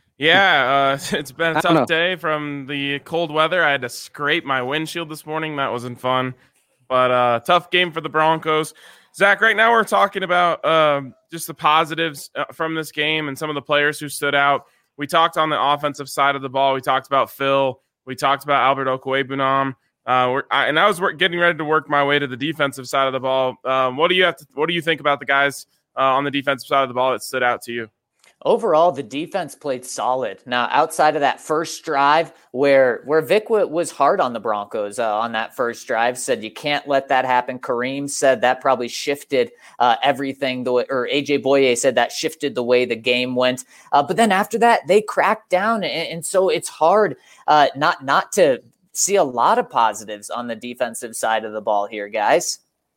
Yeah, uh, it's been a tough day from the cold weather. I had to scrape my windshield this morning. That wasn't fun. But uh, tough game for the Broncos. Zach, right now we're talking about uh, just the positives from this game and some of the players who stood out. We talked on the offensive side of the ball. We talked about Phil. We talked about Albert Okwuegbunam. Uh, we're, I, and I was work, getting ready to work my way to the defensive side of the ball. Um, what do you have to? What do you think about the guys uh, on the defensive side of the ball that stood out to you? Overall, the defense played solid. Now, outside of that first drive where where Vic w- was hard on the Broncos uh, on that first drive, said you can't let that happen. Kareem said that probably shifted uh, everything. The way, or A J Boye said that shifted the way the game went. Uh, but then after that, they cracked down. And, and so it's hard uh, not not to see a lot of positives on the defensive side of the ball here, guys.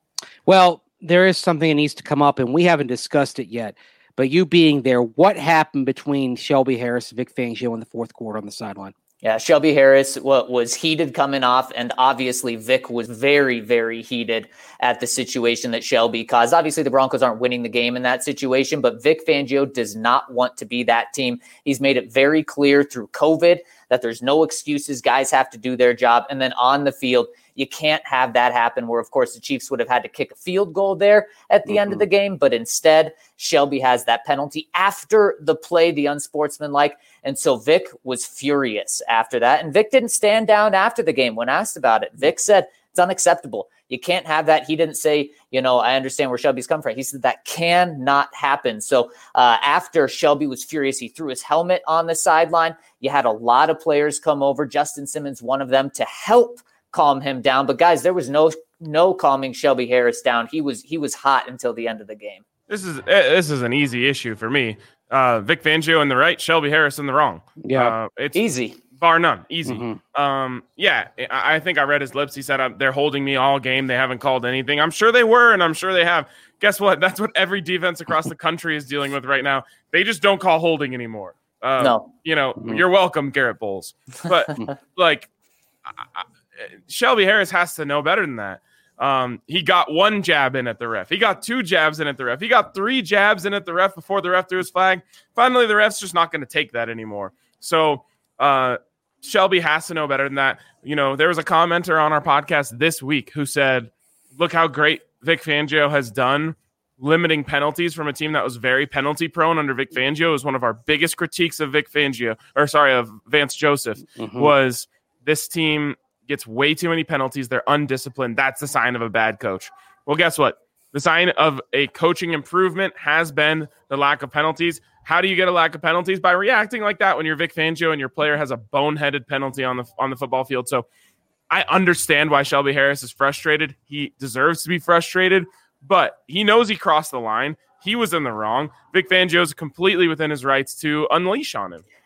Well, there is something that needs to come up, and we haven't discussed it yet. But you being there, what happened between Shelby Harris and Vic Fangio in the fourth quarter on the sideline? Yeah, Shelby Harris what was heated coming off, and obviously Vic was very, very heated at the situation that Shelby caused. Obviously, the Broncos aren't winning the game in that situation, but Vic Fangio does not want to be that team. He's made it very clear through COVID that there's no excuses. Guys have to do their job. And then on the field, you can't have that happen where, of course, the Chiefs would have had to kick a field goal there at the mm-hmm. end of the game. But instead, Shelby has that penalty after the play, the unsportsmanlike. And so Vic was furious after that. And Vic didn't stand down after the game when asked about it. Vic said, it's unacceptable. You can't have that. He didn't say, you know, I understand where Shelby's come from. He said that cannot happen. So uh, after Shelby was furious, he threw his helmet on the sideline. You had a lot of players come over. Justin Simmons, one of them, to help calm him down. But guys, there was no no calming Shelby Harris down. He was he was hot until the end of the game. This is this is an easy issue for me. Uh, Vic Fangio in the right, Shelby Harris in the wrong. Yeah, uh, it's easy. Bar none. Easy. Mm-hmm. Um, yeah, I, I think I read his lips. He said, uh, they're holding me all game. They haven't called anything. I'm sure they were, and I'm sure they have. Guess what? That's what every defense across the country is dealing with right now. They just don't call holding anymore. Uh, no. You know, mm-hmm. You're welcome, Garrett Bowles. But, like, I, I, Shelby Harris has to know better than that. Um, he got one jab in at the ref. He got two jabs in at the ref. He got three jabs in at the ref before the ref threw his flag. Finally, the ref's just not going to take that anymore. So, uh, Shelby has to know better than that. You know, there was a commenter on our podcast this week who said, look how great Vic Fangio has done limiting penalties from a team that was very penalty prone under Vic Fangio. It was one of our biggest critiques of Vic Fangio, or sorry, of Vance Joseph, mm-hmm. was this team gets way too many penalties. They're undisciplined. That's the sign of a bad coach. Well, guess what? The sign of a coaching improvement has been the lack of penalties. How do you get a lack of penalties? By reacting like that when you're Vic Fangio and your player has a boneheaded penalty on the on the football field. So I understand why Shelby Harris is frustrated. He deserves to be frustrated, but he knows he crossed the line. He was in the wrong. Vic Fangio is completely within his rights to unleash on him.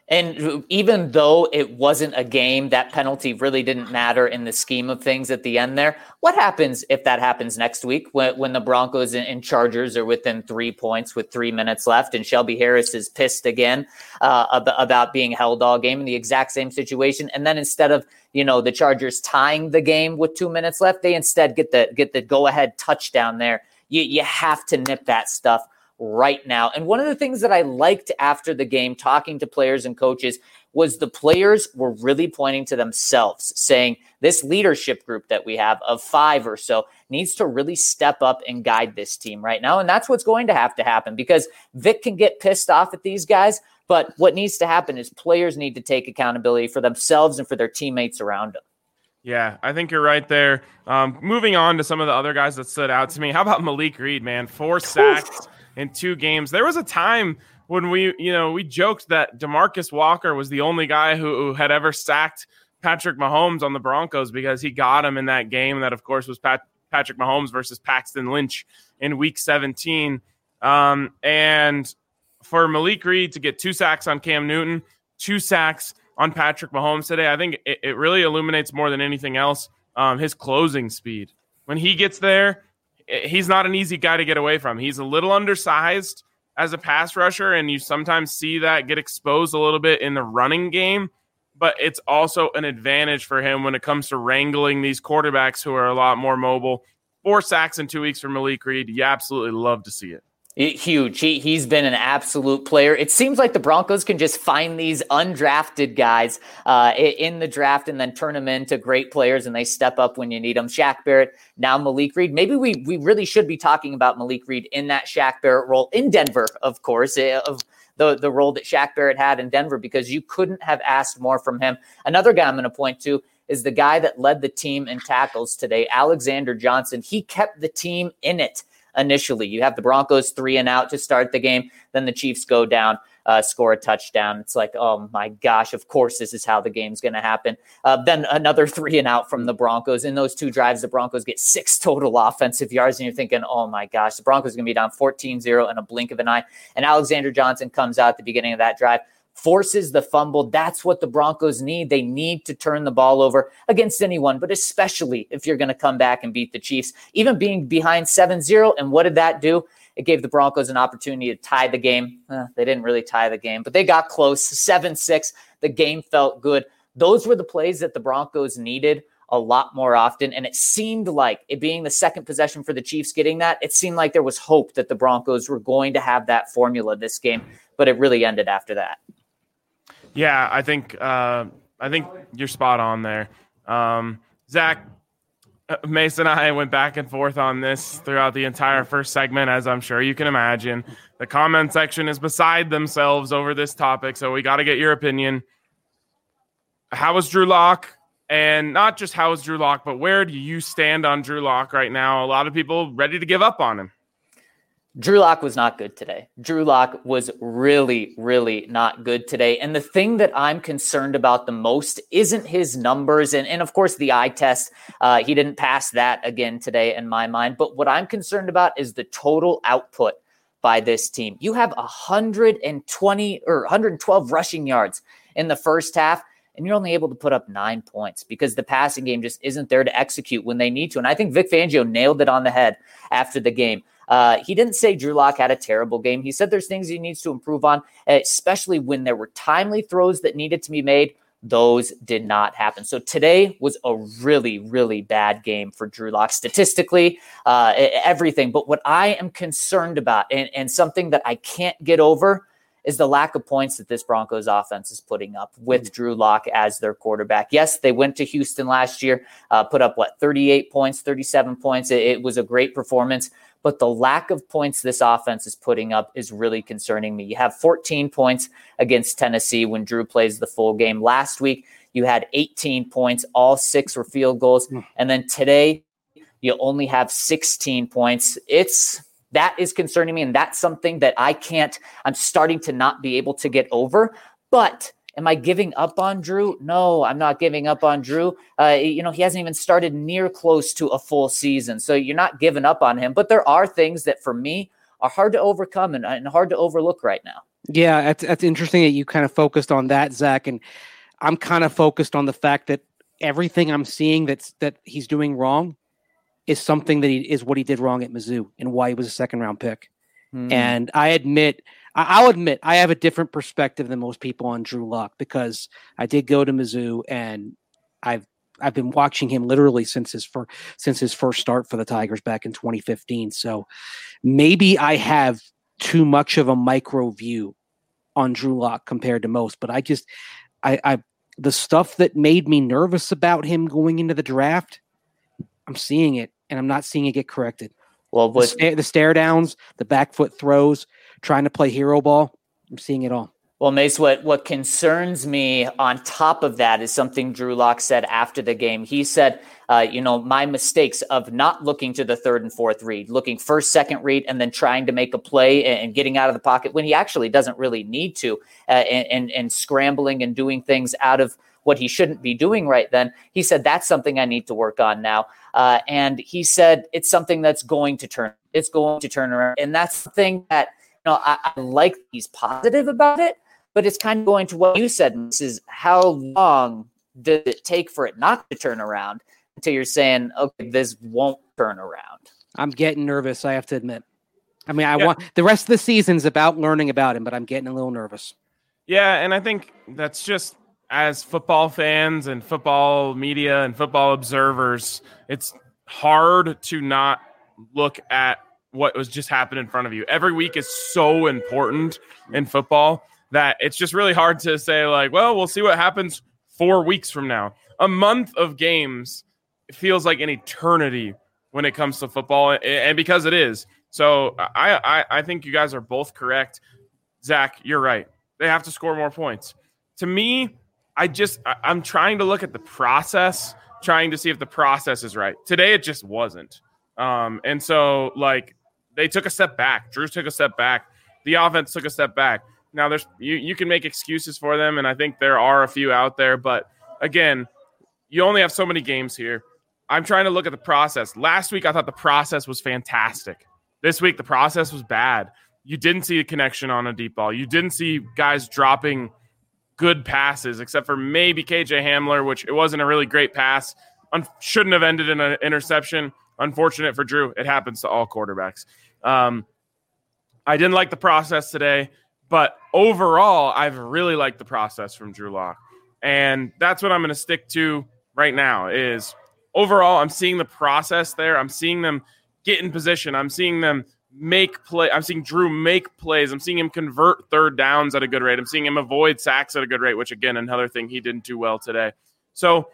And even though it wasn't a game, that penalty really didn't matter in the scheme of things at the end there. What happens if that happens next week when, when the Broncos and, and Chargers are within three points with three minutes left and Shelby Harris is pissed again uh, ab- about being held all game in the exact same situation? And then instead of, you know, the Chargers tying the game with two minutes left, they instead get the get the go-ahead touchdown there. You, you have to nip that stuff right now. And one of the things that I liked after the game, talking to players and coaches, was the players were really pointing to themselves, saying this leadership group that we have of five or so needs to really step up and guide this team right now. And that's what's going to have to happen, because Vic can get pissed off at these guys, but what needs to happen is players need to take accountability for themselves and for their teammates around them. Yeah, I think you're right there. Um, moving on to some of the other guys that stood out to me. How about Malik Reed, man? Four sacks in two games. There was a time when we, you know, we joked that DeMarcus Walker was the only guy who, who had ever sacked Patrick Mahomes on the Broncos, because he got him in that game. That, of course, was Pat, Patrick Mahomes versus Paxton Lynch in week seventeen. Um, and for Malik Reed to get two sacks on Cam Newton, two sacks on Patrick Mahomes today, I think it, it really illuminates more than anything else um, his closing speed. When he gets there, he's not an easy guy to get away from. He's a little undersized as a pass rusher, and you sometimes see that get exposed a little bit in the running game, but it's also an advantage for him when it comes to wrangling these quarterbacks who are a lot more mobile. Four sacks in two weeks for Malik Reed. You absolutely love to see it. Huge. He, he's been an absolute player. It seems like the Broncos can just find these undrafted guys uh, in the draft and then turn them into great players, and they step up when you need them. Shaq Barrett, now Malik Reed. Maybe we we really should be talking about Malik Reed in that Shaq Barrett role in Denver, of course, of the, the role that Shaq Barrett had in Denver, because you couldn't have asked more from him. Another guy I'm going to point to is the guy that led the team in tackles today, Alexander Johnson. He kept the team in it. Initially, you have the Broncos three and out to start the game. Then the Chiefs go down, uh, score a touchdown. It's like, oh my gosh, of course, this is how the game's going to happen. Uh, then another three and out from the Broncos. In those two drives, the Broncos get six total offensive yards. And you're thinking, oh my gosh, the Broncos are going to be down fourteen zero in a blink of an eye. And Alexander Johnson comes out at the beginning of that drive, forces the fumble. That's what the Broncos need. They need to turn the ball over against anyone, but especially if you're going to come back and beat the Chiefs, even being behind seven zero. And what did that do? It gave the Broncos an opportunity to tie the game. Uh, they didn't really tie the game, but they got close. seven six. The game felt good. Those were the plays that the Broncos needed a lot more often. And it seemed like, it being the second possession for the Chiefs getting that, it seemed like there was hope that the Broncos were going to have that formula this game, but it really ended after that. Yeah, I think uh, I think you're spot on there. Um, Zach, Mason and I went back and forth on this throughout the entire first segment, as I'm sure you can imagine. The comment section is beside themselves over this topic, so we got to get your opinion. How was Drew Lock? And not just how is Drew Lock, but where do you stand on Drew Lock right now? A lot of people ready to give up on him. Drew Lock was not good today. Drew Lock was really, really not good today. And the thing that I'm concerned about the most isn't his numbers. And, and of course, the eye test. Uh, he didn't pass that again today in my mind. But what I'm concerned about is the total output by this team. You have one hundred twenty or one hundred twelve rushing yards in the first half, and you're only able to put up nine points because the passing game just isn't there to execute when they need to. And I think Vic Fangio nailed it on the head after the game. Uh, he didn't say Drew Lock had a terrible game. He said there's things he needs to improve on, especially when there were timely throws that needed to be made. Those did not happen. So today was a really, really bad game for Drew Lock statistically, uh, everything. But what I am concerned about, and, and something that I can't get over, is the lack of points that this Broncos offense is putting up with Drew Lock as their quarterback. Yes, they went to Houston last year, uh, put up, what, thirty-eight points, thirty-seven points. It, it was a great performance. But the lack of points this offense is putting up is really concerning me. You have fourteen points against Tennessee when Drew plays the full game. Last week, you had eighteen points. All six were field goals. And then today, you only have sixteen points. It's that is concerning me, and that's something that I can't – I'm starting to not be able to get over. But am I giving up on Drew? No, I'm not giving up on Drew. Uh, you know, he hasn't even started near close to a full season, so you're not giving up on him. But there are things that, for me, are hard to overcome and, and hard to overlook right now. Yeah, that's, that's interesting that you kind of focused on that, Zach. And I'm kind of focused on the fact that everything I'm seeing that's that he's doing wrong is something that he is what he did wrong at Mizzou and why he was a second round pick. Mm. And I admit, I'll admit, I have a different perspective than most people on Drew Lock because I did go to Mizzou and I've I've been watching him literally since his first since his first start for the Tigers back in twenty fifteen. So maybe I have too much of a micro view on Drew Lock compared to most, but I just I, I the stuff that made me nervous about him going into the draft, I'm seeing it, and I'm not seeing it get corrected. Well, the, sta- the stare downs, the back foot throws, trying to play hero ball, I'm seeing it all. Well, Mace, what, what concerns me on top of that is something Drew Lock said after the game. He said, uh, you know, my mistakes of not looking to the third and fourth read, looking first, second read, and then trying to make a play and, and getting out of the pocket when he actually doesn't really need to, uh, and, and, and scrambling and doing things out of what he shouldn't be doing right then. He said, that's something I need to work on now. Uh, and he said, it's something that's going to turn, it's going to turn around. And that's the thing that, you know, I, I like he's positive about it. But it's kind of going to what you said, this is how long does it take for it not to turn around until you're saying, okay, this won't turn around. I'm getting nervous, I have to admit. I mean, I yeah. want the rest of the season's about learning about him, but I'm getting a little nervous. Yeah, and I think that's just as football fans and football media and football observers, it's hard to not look at what was just happened in front of you. Every week is so important in football that it's just really hard to say, like, well, we'll see what happens four weeks from now. A month of games feels like an eternity when it comes to football, and because it is. So I, I, I think you guys are both correct. Zach, you're right. They have to score more points. To me, I just – I'm trying to look at the process, trying to see if the process is right. Today it just wasn't. Um, and so, like, they took a step back. Drew took a step back. The offense took a step back. Now, there's you, you can make excuses for them, and I think there are a few out there. But, again, you only have so many games here. I'm trying to look at the process. Last week, I thought the process was fantastic. This week, the process was bad. You didn't see a connection on a deep ball. You didn't see guys dropping good passes, except for maybe K J Hamler, which it wasn't a really great pass. Un- shouldn't have ended in an interception. Unfortunate for Drew. It happens to all quarterbacks. Um, I didn't like the process today. But overall, I've really liked the process from Drew Lock. And that's what I'm going to stick to right now is overall, I'm seeing the process there. I'm seeing them get in position. I'm seeing them make play. I'm seeing Drew make plays. I'm seeing him convert third downs at a good rate. I'm seeing him avoid sacks at a good rate, which, again, another thing he didn't do well today. So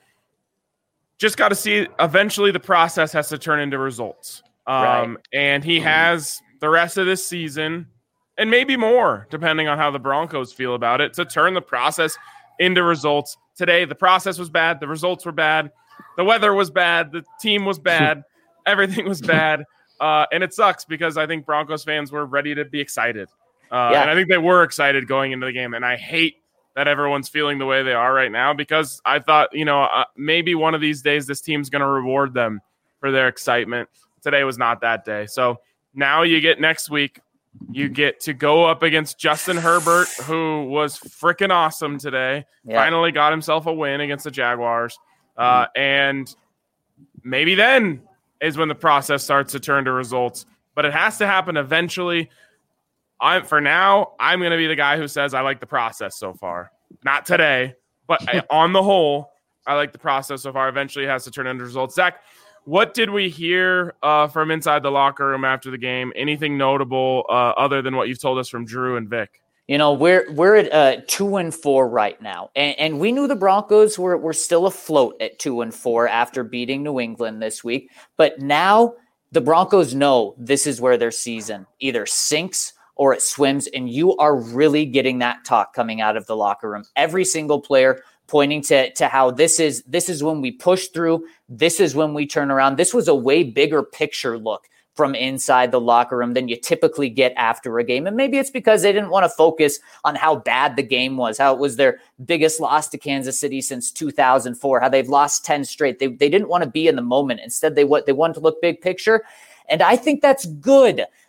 just got to see eventually the process has to turn into results. Um, right. And he has the rest of this season – and maybe more, depending on how the Broncos feel about it, to turn the process into results. Today, the process was bad. The results were bad. The weather was bad. The team was bad. Everything was bad. Uh, and it sucks because I think Broncos fans were ready to be excited. Uh, yeah. And I think they were excited going into the game. And I hate that everyone's feeling the way they are right now because I thought, you know, uh, maybe one of these days this team's going to reward them for their excitement. Today was not that day. So now you get next week. You get to go up against Justin Herbert, who was freaking awesome today. Yeah. Finally got himself a win against the Jaguars. Uh, and maybe then is when the process starts to turn to results. But it has to happen eventually. I'm, for now, I'm going to be the guy who says I like the process so far. Not today, but on the whole, I like the process so far. Eventually it has to turn into results. Zach, what did we hear uh, from inside the locker room after the game? Anything notable uh, other than what you've told us from Drew and Vic? You know, we're we're at uh, two and four right now, and, and we knew the Broncos were were still afloat at two and four after beating New England this week. But now the Broncos know this is where their season either sinks or it swims, and you are really getting that talk coming out of the locker room. Every single player pointing to, to how this is this is when we push through. This is when we turn around. This was a way bigger picture look from inside the locker room than you typically get after a game. And maybe it's because they didn't want to focus on how bad the game was, how it was their biggest loss to Kansas City since two thousand four, how they've lost ten straight. They, they didn't want to be in the moment. Instead, they, they wanted to look big picture. And I think that's good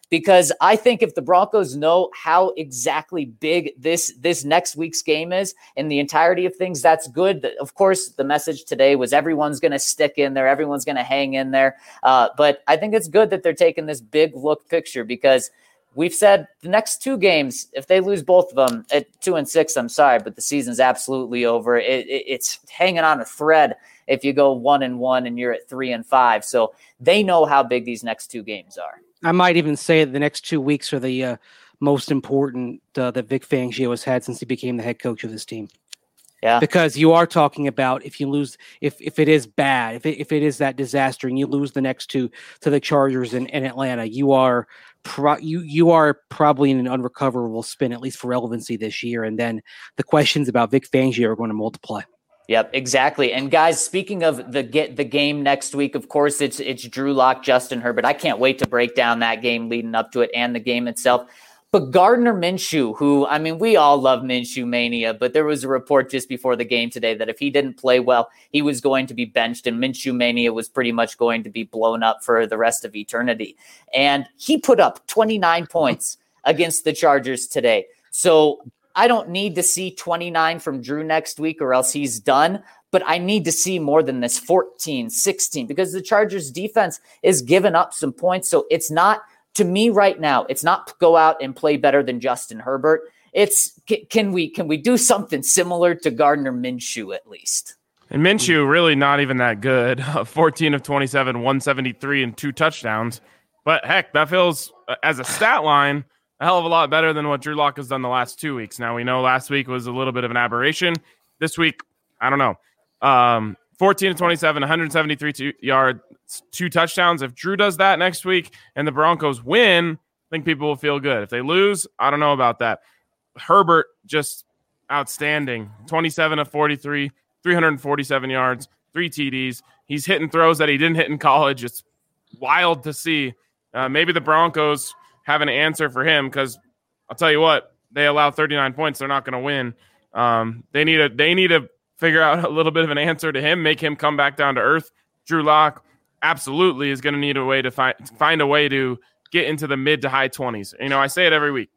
because I think if the Broncos know how exactly big this this next week's game is in the entirety of things, that's good. Of course, the message today was everyone's going to stick in there, everyone's going to hang in there. Uh, but I think it's good that they're taking this big look picture, because we've said the next two games, if they lose both of them at two and six, I'm sorry, but the season's absolutely over. It, it, it's hanging on a thread if you go one and one and you're at three and five. So they know how big these next two games are. I might even say the next two weeks are the uh, most important uh, that Vic Fangio has had since he became the head coach of this team. Yeah, because you are talking about if you lose, if if it is bad, if it, if it is that disaster, and you lose the next two to the Chargers and, and Atlanta, you are pro, you you are probably in an unrecoverable spin, at least for relevancy this year. And then the questions about Vic Fangio are going to multiply. Yep, exactly. And guys, speaking of the get the game next week, of course, it's it's Drew Lock, Justin Herbert. I can't wait to break down that game leading up to it and the game itself. But Gardner Minshew, who, I mean, we all love Minshew mania, but there was a report just before the game today that if he didn't play well, he was going to be benched, and Minshew mania was pretty much going to be blown up for the rest of eternity. And he put up twenty-nine points against the Chargers today. So I don't need to see twenty-nine from Drew next week or else he's done, but I need to see more than this fourteen, sixteen, because the Chargers defense is giving up some points. So it's not, to me right now, it's not go out and play better than Justin Herbert. It's can we can we do something similar to Gardner Minshew at least? And Minshew really not even that good. fourteen of twenty-seven, one seventy-three, and two touchdowns. But heck, that feels, as a stat line, a hell of a lot better than what Drew Lock has done the last two weeks. Now, we know last week was a little bit of an aberration. This week, I don't know. Um, fourteen of twenty-seven, one seventy-three two yards, two touchdowns. If Drew does that next week and the Broncos win, I think people will feel good. If they lose, I don't know about that. Herbert, just outstanding. twenty-seven of forty-three, three forty-seven yards, three T Ds. He's hitting throws that he didn't hit in college. It's wild to see. Uh, maybe the Broncos have an answer for him, because I'll tell you what, they allow thirty-nine points. They're not going to win. Um, they need a, they need to figure out a little bit of an answer to him, make him come back down to earth. Drew Lock absolutely is going to need a way to find, find a way to get into the mid to high twenties. You know, I say it every week.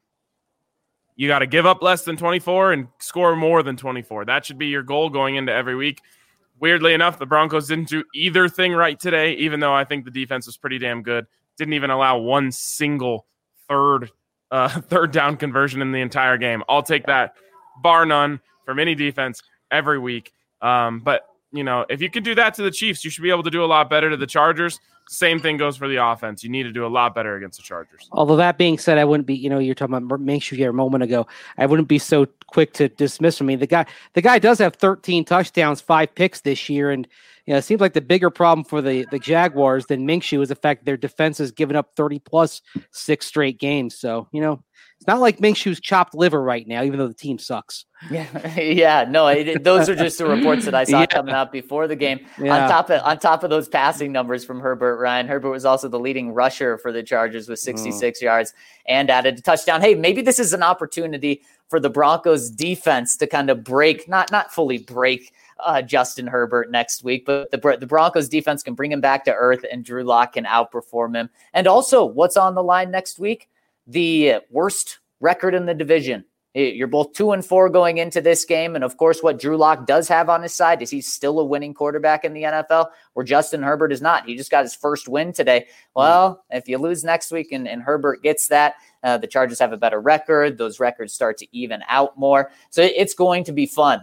You got to give up less than twenty-four and score more than twenty-four. That should be your goal going into every week. Weirdly enough, the Broncos didn't do either thing right today, even though I think the defense was pretty damn good. Didn't even allow one single third uh, third down conversion in the entire game. I'll take that, bar none, from any defense every week. Um, but, you know, if you can do that to the Chiefs, you should be able to do a lot better to the Chargers. Same thing goes for the offense. You need to do a lot better against the Chargers. Although that being said, I wouldn't be, you know, you're talking about Minshew here a moment ago. I wouldn't be so quick to dismiss him. I mean, the guy, the guy does have thirteen touchdowns, five picks this year. And, you know, it seems like the bigger problem for the, the Jaguars than Minshew is the fact that their defense has given up thirty plus six straight games. So, you know, it's not like Minshew's chopped liver right now, even though the team sucks. Yeah, yeah, no, it, those are just the reports that I saw yeah. coming out before the game. Yeah. On top of on top of those passing numbers from Herbert, Ryan Herbert was also the leading rusher for the Chargers with sixty-six mm. yards and added a touchdown. Hey, maybe this is an opportunity for the Broncos defense to kind of break, not not fully break uh, Justin Herbert next week, but the the Broncos defense can bring him back to earth, and Drew Lock can outperform him. And also, what's on the line next week? The worst record in the division. You're both two and four going into this game. And of course, what Drew Lock does have on his side is he's still a winning quarterback in the N F L, where Justin Herbert is not. He just got his first win today. Well, if you lose next week and, and Herbert gets that, uh, the Chargers have a better record. Those records start to even out more. So it's going to be fun.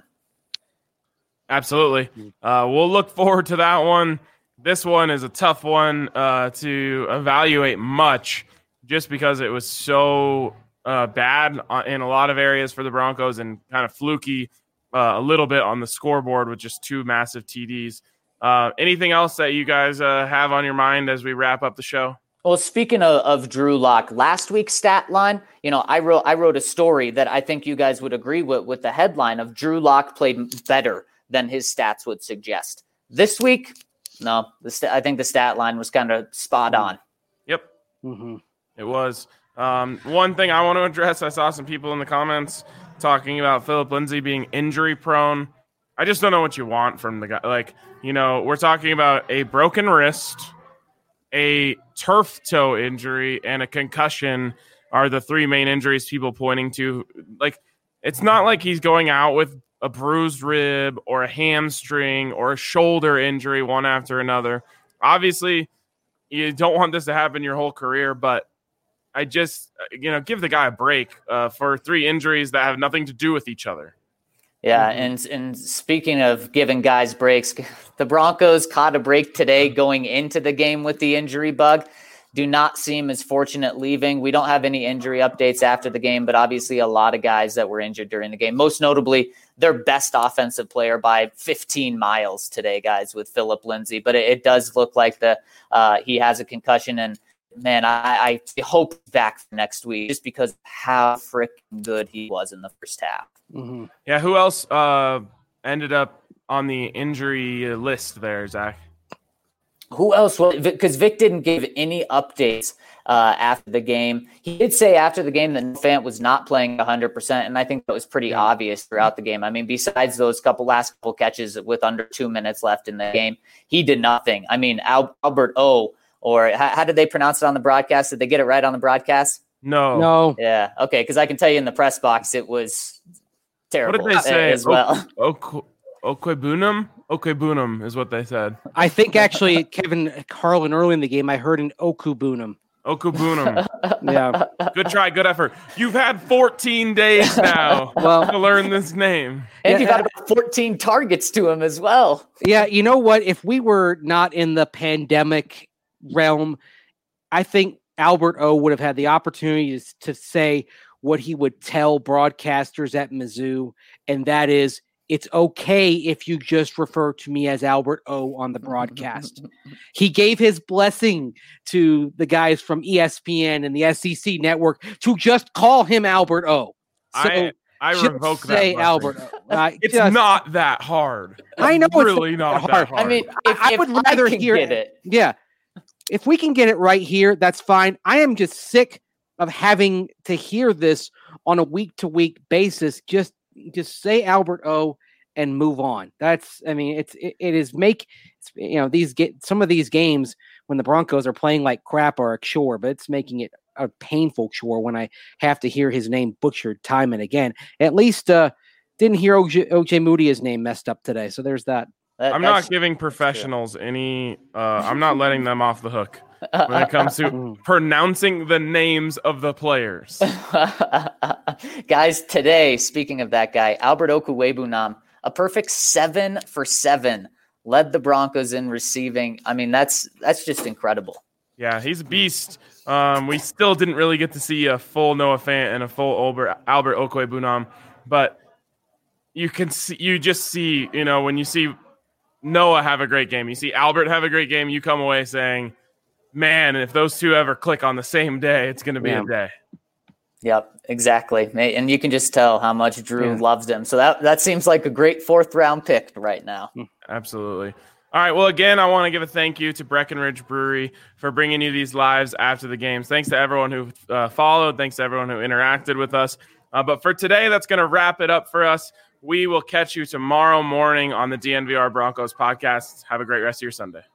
Absolutely. Uh, we'll look forward to that one. This one is a tough one uh, to evaluate much, just because it was so uh, bad in a lot of areas for the Broncos and kind of fluky uh, a little bit on the scoreboard with just two massive T Ds. Uh, anything else that you guys uh, have on your mind as we wrap up the show? Well, speaking of, of Drew Lock, last week's stat line, you know, I wrote I wrote a story that I think you guys would agree with, with the headline of Drew Lock played better than his stats would suggest. This week, no, the st- I think the stat line was kind of spot on. Yep. Mm-hmm. It was. Um, one thing I want to address, I saw some people in the comments talking about Philip Lindsay being injury prone. I just don't know what you want from the guy. Like, you know, we're talking about a broken wrist a turf toe injury and a concussion are the three main injuries people pointing to. Like, it's not like he's going out with a bruised rib or a hamstring or a shoulder injury one after another. Obviously, you don't want this to happen your whole career, but I just, you know, give the guy a break uh, for three injuries that have nothing to do with each other. Yeah, and and speaking of giving guys breaks, the Broncos caught a break today going into the game with the injury bug. Do not seem as fortunate leaving. We don't have any injury updates after the game, but obviously a lot of guys that were injured during the game. Most notably, their best offensive player by fifteen miles today, guys, with Phillip Lindsay. But it, it does look like the uh, he has a concussion, and man, I, I hope back next week just because of how freaking good he was in the first half. Mm-hmm. Yeah, who else uh, ended up on the injury list there, Zach? Who else? Because Vic didn't give any updates uh, after the game. He did say after the game that Fant was not playing one hundred percent, and I think that was pretty yeah. obvious throughout the game. I mean, besides those couple last couple catches with under two minutes left in the game, he did nothing. I mean, Al- Albert O, or how, how did they pronounce it on the broadcast? Did they get it right on the broadcast? No. No. Yeah, okay, because I can tell you in the press box it was terrible. What did they say as well? O- o- Okwebunam? Okwebunam is what they said. I think actually Kevin Harlan early in the game, I heard an Okubunam. Okubunam. Yeah. Good try. Good effort. You've had fourteen days now well, to learn this name. And yeah, you've had about fourteen targets to him as well. Yeah. You know what? If we were not in the pandemic realm, I think Albert O would have had the opportunity to, to say what he would tell broadcasters at Mizzou, and that is, it's okay if you just refer to me as Albert O on the broadcast. He gave his blessing to the guys from E S P N and the S E C network to just call him Albert O. So I I revoke that. Say blessing. Albert O. Uh, it's just, not that hard. I know really it's not hard. that hard. I mean, if, I if would I rather can hear get it. Yeah. If we can get it right here, that's fine. I am just sick of having to hear this on a week-to-week basis. Just just say Albert O and move on. That's, I mean, it's it, it is make you know these get some of these games when the Broncos are playing like crap are a chore, but it's making it a painful chore when I have to hear his name butchered time and again. At least uh, didn't hear O J, O J Moody's name messed up today, so there's that. That, I'm not giving professionals any. Uh, I'm not letting them off the hook when it comes to pronouncing the names of the players. Guys, today, speaking of that guy, Albert Okwebunam, a perfect seven for seven, led the Broncos in receiving. I mean, that's that's just incredible. Yeah, he's a beast. Um, we still didn't really get to see a full Noah Fant and a full Albert, Albert Okwebunam, but you can see, you just see, you know, when you see Noah have a great game, you see Albert have a great game, you come away saying, man, if those two ever click on the same day, it's going to be yeah. a day. Yep, exactly. And you can just tell how much Drew yeah. loves him. So that, that seems like a great fourth round pick right now. Absolutely. All right. Well, again, I want to give a thank you to Breckenridge Brewery for bringing you these lives after the games. Thanks to everyone who uh, followed. Thanks to everyone who interacted with us. Uh, but for today, that's going to wrap it up for us. We will catch you tomorrow morning on the D N V R Broncos podcast. Have a great rest of your Sunday.